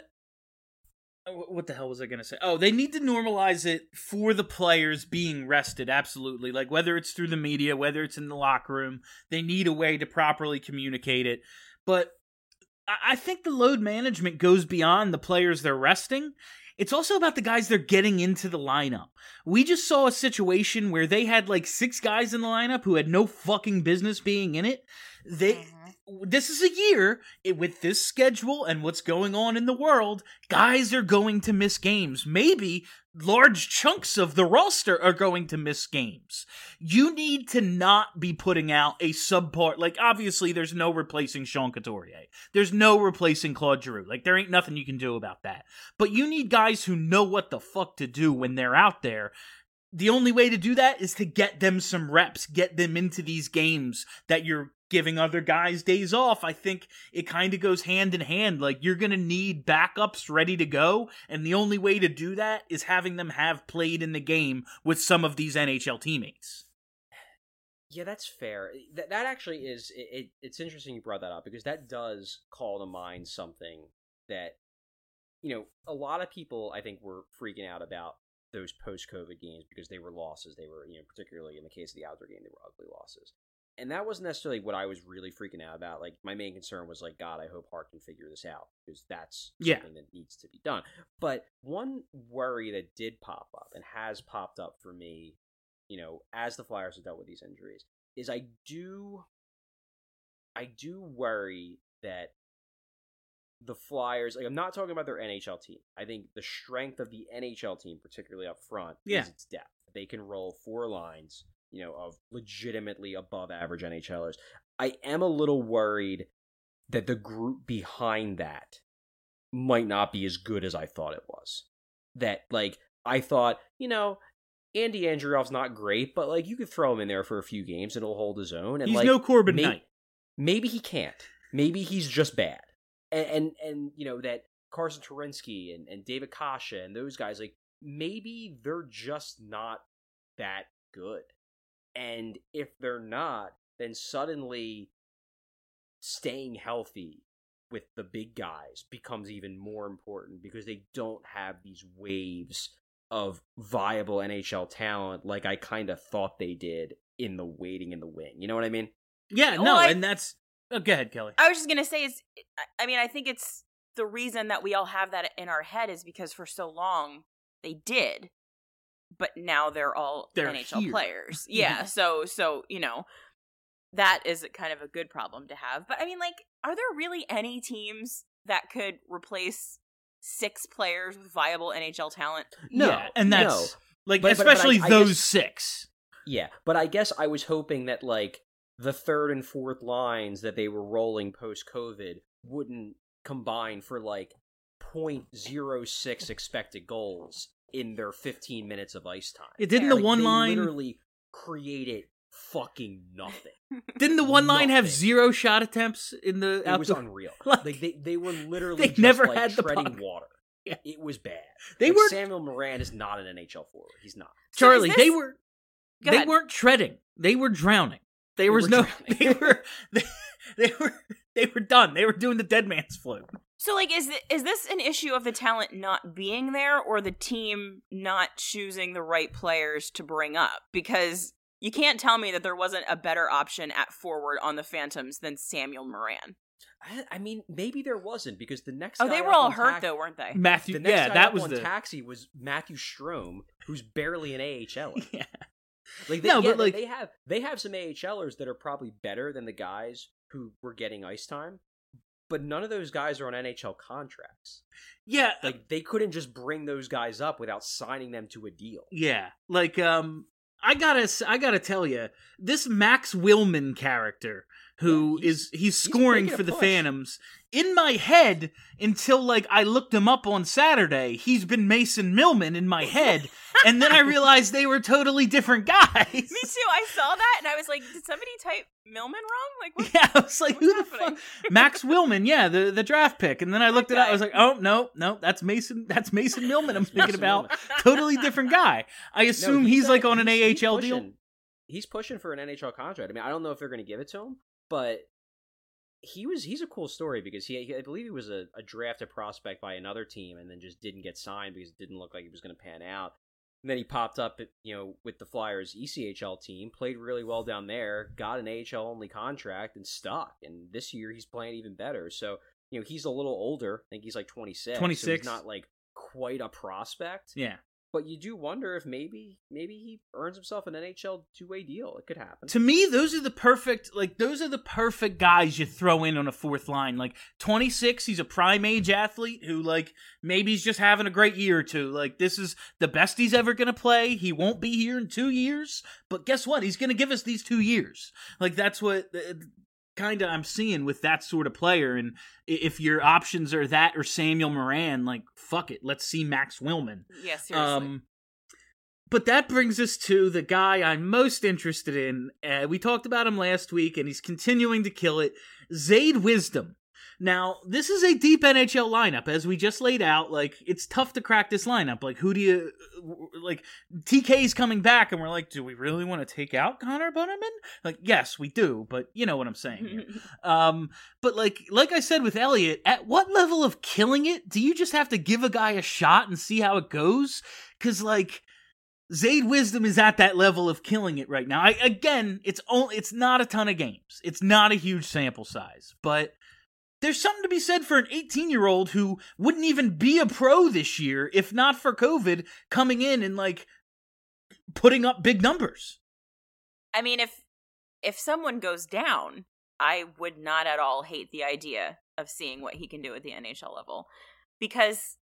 E: what the hell was I going to say? Oh, they need to normalize it for the players being rested, absolutely. Like, whether it's through the media, whether it's in the locker room, they need a way to properly communicate it. But I think the load management goes beyond the players they're resting. It's also about the guys they're getting into the lineup. We just saw a situation where they had like 6 guys in the lineup who had no fucking business being in it. This is a year, with this schedule and what's going on in the world, guys are going to miss games. Maybe large chunks of the roster are going to miss games. You need to not be putting out a subpar. Like, obviously, there's no replacing Sean Couturier. There's no replacing Claude Giroux. Like, there ain't nothing you can do about that. But you need guys who know what the fuck to do when they're out there. The only way to do that is to get them some reps, get them into these games that you're giving other guys days off. I think it kind of goes hand in hand. Like, you're going to need backups ready to go, and the only way to do that is having them have played in the game with some of these NHL teammates.
G: Yeah, that's fair. That actually is... It's interesting you brought that up, because that does call to mind something that, you know, a lot of people, I think, were freaking out about those post-COVID games because they were losses. They were, you know, particularly in the case of the outdoor game, they were ugly losses. And that wasn't necessarily what I was really freaking out about. Like, my main concern was, like, God, I hope Hart can figure this out, because that's something that needs to be done. But one worry that did pop up, and has popped up for me, you know, as the Flyers have dealt with these injuries, is I do worry that the Flyers, like, I'm not talking about their NHL team. I think the strength of the NHL team, particularly up front, is its depth. They can roll 4 lines, you know, of legitimately above average NHLers. I am a little worried that the group behind that might not be as good as I thought it was. That, like, I thought, you know, Andy Andreoff's not great, but, like, you could throw him in there for a few games and he'll hold his own. And,
E: he's
G: like,
E: no Corbin Knight.
G: Maybe he can't. Maybe he's just bad. And you know, that Carson Turinsky and David Kasha and those guys, like, maybe they're just not that good. And if they're not, then suddenly staying healthy with the big guys becomes even more important, because they don't have these waves of viable NHL talent like I kind of thought they did in the waiting in the wing. You know what I mean?
E: Yeah, no, and that's... Oh, go ahead, Kelly.
F: I was just going to say, I think it's the reason that we all have that in our head is because for so long they did, but now they're NHL
E: here.
F: players. Yeah, so you know, that is kind of a good problem to have. But I mean, like, are there really any teams that could replace 6 players with viable NHL talent?
E: No, yeah, and that's like,
G: but
E: especially
G: I
E: those
G: guess,
E: 6.
G: Yeah, but I guess I was hoping that, like, the 3rd and 4th lines that they were rolling post-COVID wouldn't combine for, like, 0.06 expected goals in their 15 minutes of ice time.
E: Yeah, didn't the
G: like,
E: one
G: they
E: line
G: literally created fucking nothing?
E: Didn't the one line have 0 shot attempts in the?
G: It was unreal. Like, they were literally
E: they never
G: like,
E: had the
G: treading
E: puck.
G: water.
E: Yeah.
G: It was bad.
E: They were.
G: Samuel Morin is not an NHL forward. He's not.
E: Charlie,
F: so
E: they were. They weren't treading. They were drowning. They were done. They were done. They were doing the dead man's float.
F: So, like, is this an issue of the talent not being there, or the team not choosing the right players to bring up? Because you can't tell me that there wasn't a better option at forward on the Phantoms than Samuel Morin.
G: I mean, maybe there wasn't, because the next.
F: Oh, they were all hurt though, weren't they?
E: Matthew,
G: the next guy
E: that
G: up
E: was
G: on
E: the
G: taxi was Matthew Strome, who's barely an AHLer.
E: Yeah.
G: Like, they have some AHLers that are probably better than the guys who were getting ice time, but none of those guys are on NHL contracts.
E: Yeah,
G: like, they couldn't just bring those guys up without signing them to a deal.
E: Yeah, like I gotta tell you, this Max Willman character who he's scoring
G: making a
E: for the
G: push.
E: Phantoms. In my head, until like I looked him up on Saturday, he's been Mason Millman in my head, and then I realized they were totally different guys.
F: Me too. I saw that and I was like, did somebody type Millman wrong? Like, what?
E: Yeah, I was like,
F: what's
E: who
F: happening?
E: the fuck? Max Willman, yeah, the draft pick. And then I looked it up. I was like, oh, no, that's Mason Millman I'm thinking about. Totally different guy. I assume he's like on an AHL deal.
G: He's pushing for an NHL contract. I mean, I don't know if they're going to give it to him, but he's a cool story because I believe he was a drafted prospect by another team and then just didn't get signed because it didn't look like he was going to pan out. And then he popped up, with the Flyers ECHL team, played really well down there, got an AHL only contract, and stuck. And this year he's playing even better. So, he's a little older. I think he's like 26.
E: 26.
G: So he's not like quite a prospect.
E: Yeah.
G: But you do wonder if maybe he earns himself an NHL two-way deal. It could happen.
E: To me, those are the perfect guys you throw in on a fourth line. Like 26, he's a prime age athlete who like maybe he's just having a great year or two. Like this is the best he's ever going to play. He won't be here in 2 years, but guess what? He's going to give us these 2 years. Like that's what kind of I'm seeing with that sort of player. And if your options are that or Samuel Morin, like fuck it, let's see Max Willman.
F: Yeah, seriously.
E: But that brings us to the guy I'm most interested in. We talked about him last week, and he's continuing to kill it. Zayd Wisdom. Now, this is a deep NHL lineup, as we just laid out. Like, it's tough to crack this lineup. Like, who do you... Like, TK's coming back, and we're like, do we really want to take out Connor Bunnaman? Like, yes, we do, but you know what I'm saying here. But like I said with Elliott, at what level of killing it do you just have to give a guy a shot and see how it goes? Because, like... Zayd Wisdom is at that level of killing it right now. It's not a ton of games. It's not a huge sample size, but there's something to be said for an 18-year-old who wouldn't even be a pro this year if not for COVID coming in and like putting up big numbers.
F: I mean, if someone goes down, I would not at all hate the idea of seeing what he can do at the NHL level because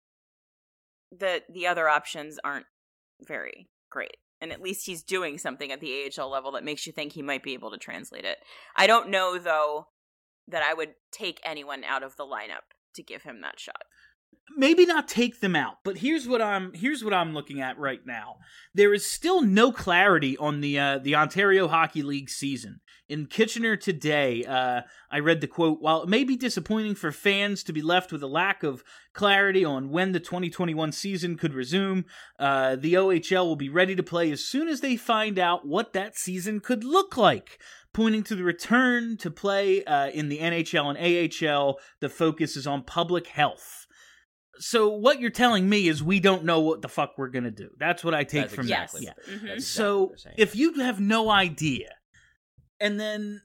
F: the other options aren't very great. And at least he's doing something at the AHL level that makes you think he might be able to translate it. I don't know, though, that I would take anyone out of the lineup to give him that shot.
E: Maybe not take them out, but here's what I'm looking at right now. There is still no clarity on the Ontario Hockey League season. In Kitchener today, I read the quote, while it may be disappointing for fans to be left with a lack of clarity on when the 2021 season could resume, the OHL will be ready to play as soon as they find out what that season could look like. Pointing to the return to play in the NHL and AHL, the focus is on public health. So what you're telling me is we don't know what the fuck we're going to do. That's what I take from that. Yeah.
F: Mm-hmm.
E: So if you have no idea, and then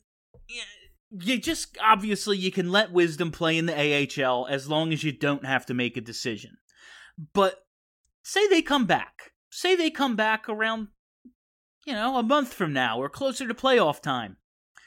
E: you just, obviously you can let Wisdom play in the AHL as long as you don't have to make a decision. But say they come back. Say they come back around, a month from now or closer to playoff time.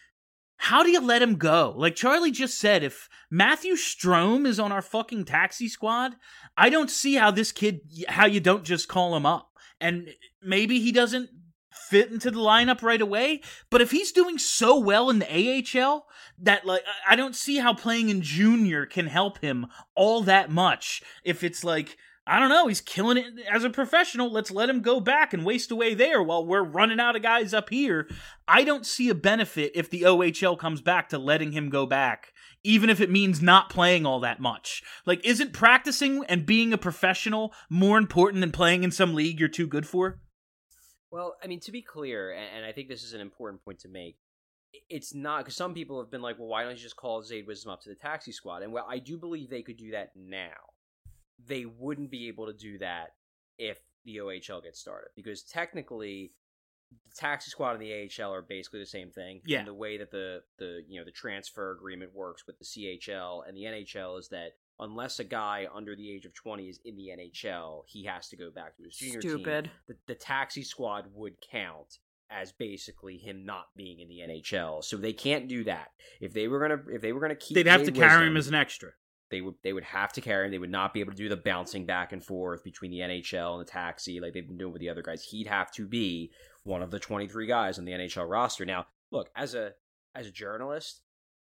E: How do you let him go? Like Charlie just said, if Matthew Strome is on our fucking taxi squad, I don't see how you don't just call him up. And maybe he doesn't fit into the lineup right away, but if he's doing so well in the AHL, that like I don't see how playing in junior can help him all that much. If it's like, I don't know, he's killing it as a professional, let's let him go back and waste away there while we're running out of guys up here. I don't see a benefit if the OHL comes back to letting him go back, even if it means not playing all that much. Like, isn't practicing and being a professional more important than playing in some league you're too good for?
G: Well, I mean, to be clear, and I think this is an important point to make, it's not, because some people have been like, well, why don't you just call Zayd Wisdom up to the taxi squad? And well, I do believe they could do that now. They wouldn't be able to do that if the OHL gets started, because technically the taxi squad and the AHL are basically the same thing.
E: Yeah.
G: And the way that the transfer agreement works with the CHL and the NHL is that unless a guy under the age of 20 is in the NHL, he has to go back to his junior team. The taxi squad would count as basically him not being in the NHL. So they can't do that. If they were gonna keep,
E: they'd have to carry him as an extra.
G: They would have to carry him. They would not be able to do the bouncing back and forth between the NHL and the taxi like they've been doing with the other guys. He'd have to be one of the 23 guys on the NHL roster. Now, look, as a journalist,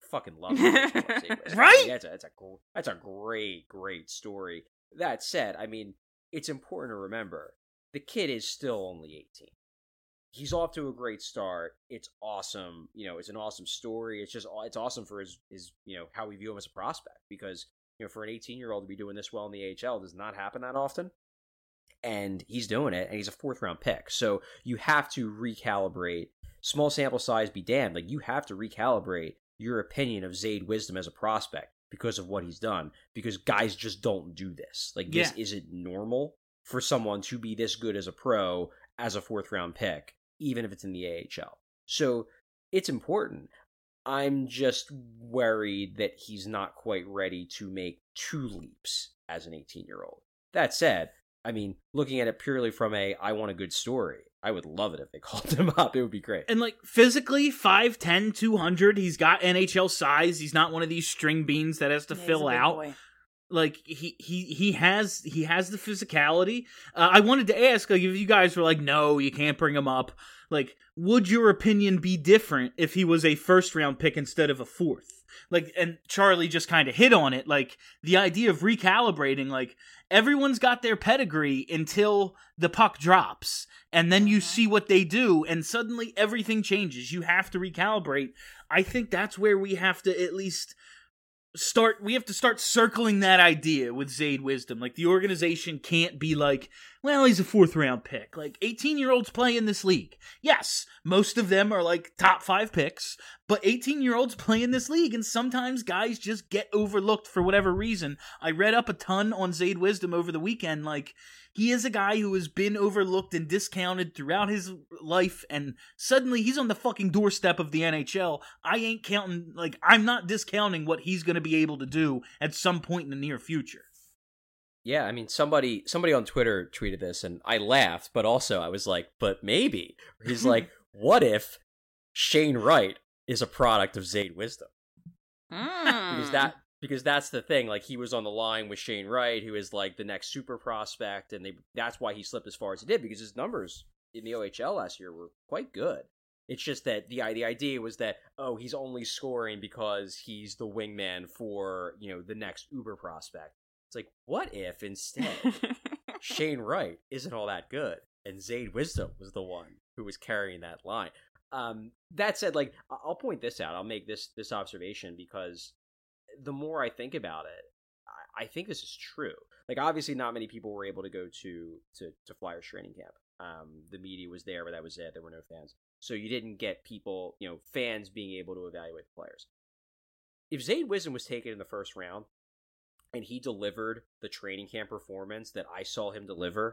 G: fucking love it.
E: Right?
G: That's a great story. That said, I mean, it's important to remember the kid is still only 18. He's off to a great start. It's awesome. It's an awesome story. It's awesome for his how we view him as a prospect, because for an 18-year-old to be doing this well in the AHL does not happen that often. And he's doing it, and he's a 4th round pick. So you have to recalibrate. Small sample size be damned. Like, you have to recalibrate your opinion of Zayde Wisdom as a prospect because of what he's done. Because guys just don't do this. Like, this isn't normal for someone to be this good as a pro as a 4th round pick, even if it's in the AHL. So it's important. I'm just worried that he's not quite ready to make 2 leaps as an 18-year-old. That said, I mean, looking at it purely from I want a good story, I would love it if they called him up. It would be great.
E: And, like, physically, 5'10", 200, he's got NHL size. He's not one of these string beans that has to fill out. Boy. Like, he has the physicality. I wanted to ask, like, if you guys were like, no, you can't bring him up, like, would your opinion be different if he was a 1st round pick instead of a 4th? Like, and Charlie just kind of hit on it, like, the idea of recalibrating, like, everyone's got their pedigree until the puck drops, and then you see what they do, and suddenly everything changes. You have to recalibrate. I think that's where we have to at least start circling that idea with Zayde Wisdom. Like, the organization can't be like, well, he's a 4th round pick. Like, 18-year-olds play in this league. Yes, most of them are like top 5 picks, but 18-year-olds play in this league, and sometimes guys just get overlooked for whatever reason. I read up a ton on Zayde Wisdom over the weekend. Like, he is a guy who has been overlooked and discounted throughout his life, and suddenly he's on the fucking doorstep of the NHL. I'm not discounting what he's going to be able to do at some point in the near future.
G: Yeah, I mean, somebody on Twitter tweeted this, and I laughed, but also I was like, but maybe. He's like, what if Shane Wright is a product of Zayde Wisdom? Because that's the thing. Like, he was on the line with Shane Wright, who is like the next super prospect, and that's why he slipped as far as he did, because his numbers in the OHL last year were quite good. It's just that the idea was that, oh, he's only scoring because he's the wingman for, the next uber prospect. It's like, what if instead Shane Wright isn't all that good, and Zayde Wisdom was the one who was carrying that line? That said, like, I'll point this out. I'll make this observation, because the more I think about it, I think this is true. Like, obviously not many people were able to go to Flyers training camp. The media was there, but that was it. There were no fans. So you didn't get people, fans being able to evaluate the players. If Zayde Wisdom was taken in the 1st round, and he delivered the training camp performance that I saw him deliver,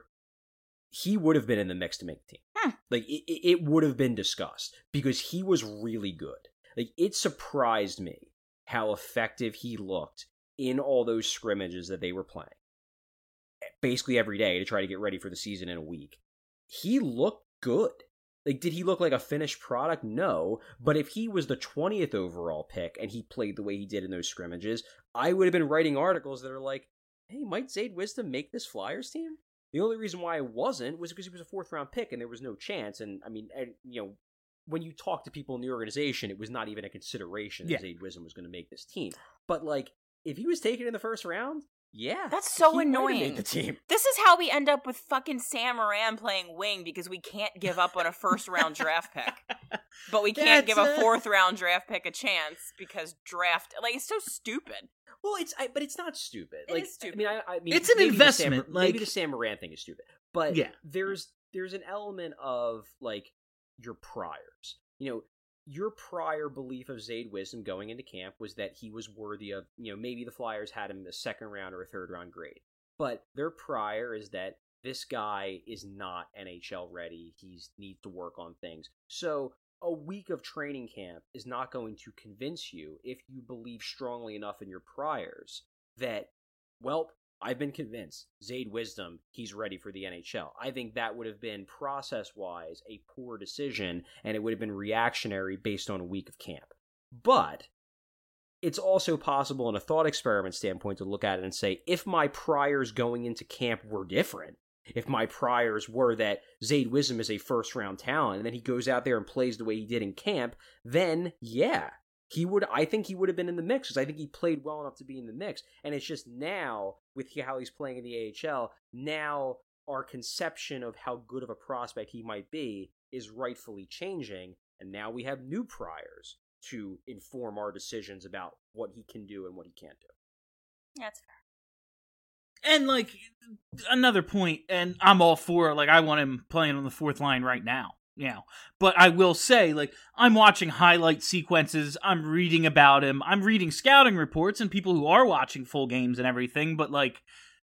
G: he would have been in the mix to make the team. Like, it would have been discussed, because he was really good. Like, it surprised me how effective he looked in all those scrimmages that they were playing, basically every day, to try to get ready for the season in a week. He looked good. Like, did he look like a finished product? No. But if he was the 20th overall pick and he played the way he did in those scrimmages, I would have been writing articles that are like, hey, might Zayde Wisdom make this Flyers team? The only reason why I wasn't was because he was a 4th round pick and there was no chance. And I mean, when you talk to people in the organization, it was not even a consideration that Zayde Wisdom was going to make this team. But, like, if he was taken in the 1st round, yeah,
F: that's so annoying.
G: Made the team.
F: This is how we end up with fucking Sam Moran playing wing, because we can't give up on a 1st round draft pick, but we can't give a 4th round draft pick a chance because it's so stupid.
G: Well, but it's not stupid.
F: It is stupid.
G: I mean,
E: it's an investment.
G: Maybe the Sam Moran thing is stupid, but there's an element of, like, your priors. Your prior belief of Zayde Wisdom going into camp was that he was worthy of, maybe the Flyers had him a 2nd round or a 3rd round grade. But their prior is that this guy is not NHL ready. He needs to work on things. So a week of training camp is not going to convince you, if you believe strongly enough in your priors, that, well, I've been convinced Zayde Wisdom, he's ready for the NHL. I think that would have been, process-wise, a poor decision, and it would have been reactionary based on a week of camp. But it's also possible, in a thought experiment standpoint, to look at it and say, if my priors going into camp were different, if my priors were that Zayde Wisdom is a 1st round talent, and then he goes out there and plays the way he did in camp, then, yeah, I think he would have been in the mix because I think he played well enough to be in the mix. And it's just now, with how he's playing in the AHL, now our conception of how good of a prospect he might be is rightfully changing. And now we have new priors to inform our decisions about what he can do and what he can't do.
F: That's fair.
E: And, like, another point, and I'm all for, like, I want him playing on the fourth line right now. But I will say, like, I'm watching highlight sequences, I'm reading about him, I'm reading scouting reports and people who are watching full games and everything, but, like,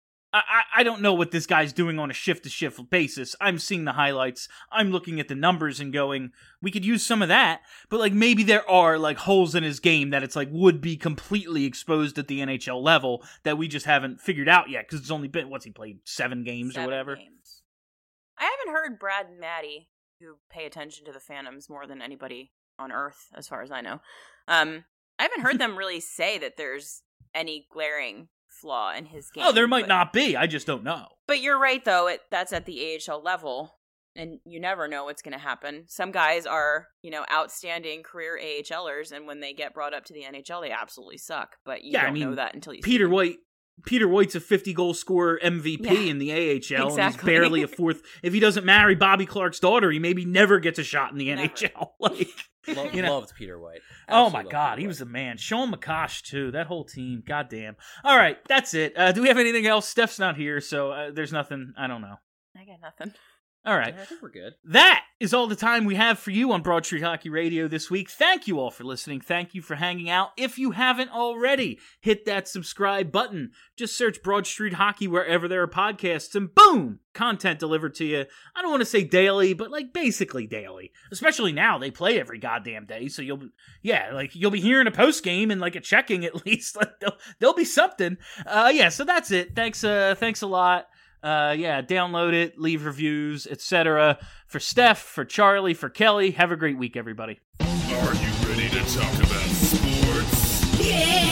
E: I don't know what this guy's doing on a shift-to-shift basis. I'm seeing the highlights, I'm looking at the numbers and going, we could use some of that, but, like, maybe there are, like, holes in his game that it's, like, would be completely exposed at the NHL level that we just haven't figured out yet, because it's only been, he played 7 games or whatever?
F: Games. I haven't heard Brad and Maddie, who pay attention to the Phantoms more than anybody on Earth, as far as I know. I haven't heard them really say that there's any glaring flaw in his game.
E: Oh, there might not be. I just don't know.
F: But you're right, though. That's at the AHL level, and you never know what's going to happen. Some guys are, outstanding career AHLers, and when they get brought up to the NHL, they absolutely suck. But you don't know that until you see them.
E: Peter White's a 50-goal scorer MVP in the AHL,
F: exactly.
E: And he's barely a fourth. If he doesn't marry Bobby Clark's daughter, he maybe never gets a shot in the NHL. Like,
G: Loved Peter White.
E: Oh my God, he was a man. Sean McCosh too. That whole team. Goddamn. All right, that's it. Do we have anything else? Steph's not here, so there's nothing. I don't know.
F: I got nothing.
E: All right.
G: Yeah, I think we're good.
E: That is all the time we have for you on Broad Street Hockey Radio this week. Thank you all for listening. Thank you for hanging out. If you haven't already, hit that subscribe button. Just search Broad Street Hockey wherever there are podcasts, and boom, content delivered to you. I don't want to say daily, but like basically daily. Especially now, they play every goddamn day, so you'll be hearing a post game and like a checking at least. Like there'll be something. So that's it. Thanks a lot. Download it, leave reviews, etc. For Steph, for Charlie, for Kelly, have a great week, everybody.
A: Are you ready to talk about sports?
D: Yeah!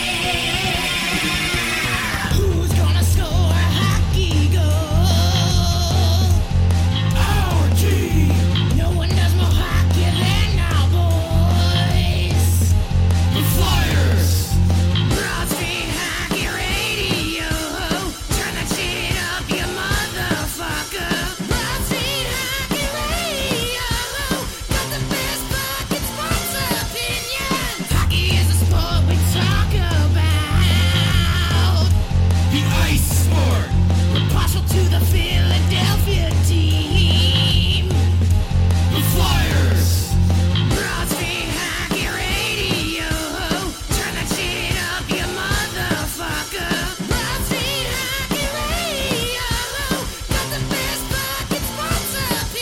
D: Who's gonna score a hockey goal? Our team! No one does more hockey than our boys! The Flyers! Broad Street Hockey Radio! Turn that shit up, you motherfucker! Broad Street Hockey Radio! Got the best fucking sports opinions! Hockey is a sport we talk about! The ice sport! We're partial to the Philadelphia team! The Flyers! Broad Street Hockey Radio! Turn that shit up, you motherfucker! Broad Street Hockey Radio! Got the best fucking sports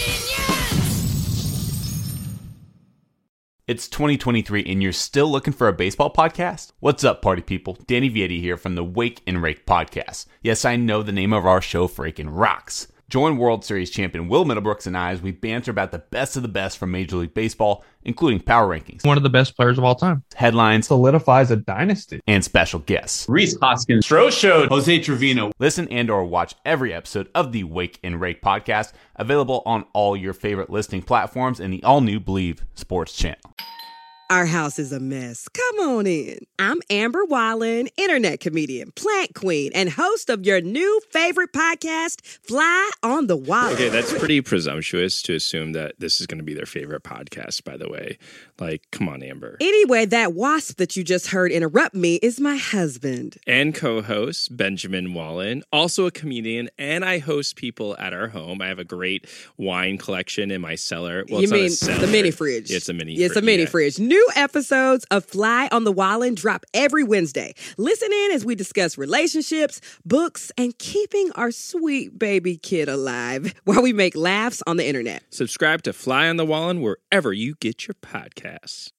D: opinions!
L: It's 2023 and you're still looking for a baseball podcast? What's up, party people? Danny Vietti here from the Wake and Rake podcast. Yes, I know the name of our show freaking rocks. Join World Series champion Will Middlebrooks and I as we banter about the best of the best from Major League Baseball, including power rankings,
M: one of the best players of all time,
L: headlines,
M: solidifies a dynasty,
L: and special guests.
N: Rhys Hoskins, Stro Show, Jose Trevino.
L: Listen and or watch every episode of the Wake and Rake podcast, available on all your favorite listening platforms and the all-new Believe Sports channel.
O: Our house is a mess. Come on in. I'm Amber Wallen, internet comedian, plant queen, and host of your new favorite podcast, Fly on the Wallen.
P: Okay, that's pretty presumptuous to assume that this is going to be their favorite podcast, by the way. Like, come on, Amber.
O: Anyway, that wasp that you just heard interrupt me is my husband.
P: And co-host, Benjamin Wallen, also a comedian, and I host people at our home. I have a great wine collection in my cellar. Well,
O: you mean the mini fridge?
P: It's a mini
O: fridge. It's a mini fridge. New episodes of Fly on the Wallen drop every Wednesday. Listen in as we discuss relationships, books, and keeping our sweet baby kid alive while we make laughs on the internet.
P: Subscribe to Fly on the Wallen wherever you get your podcasts.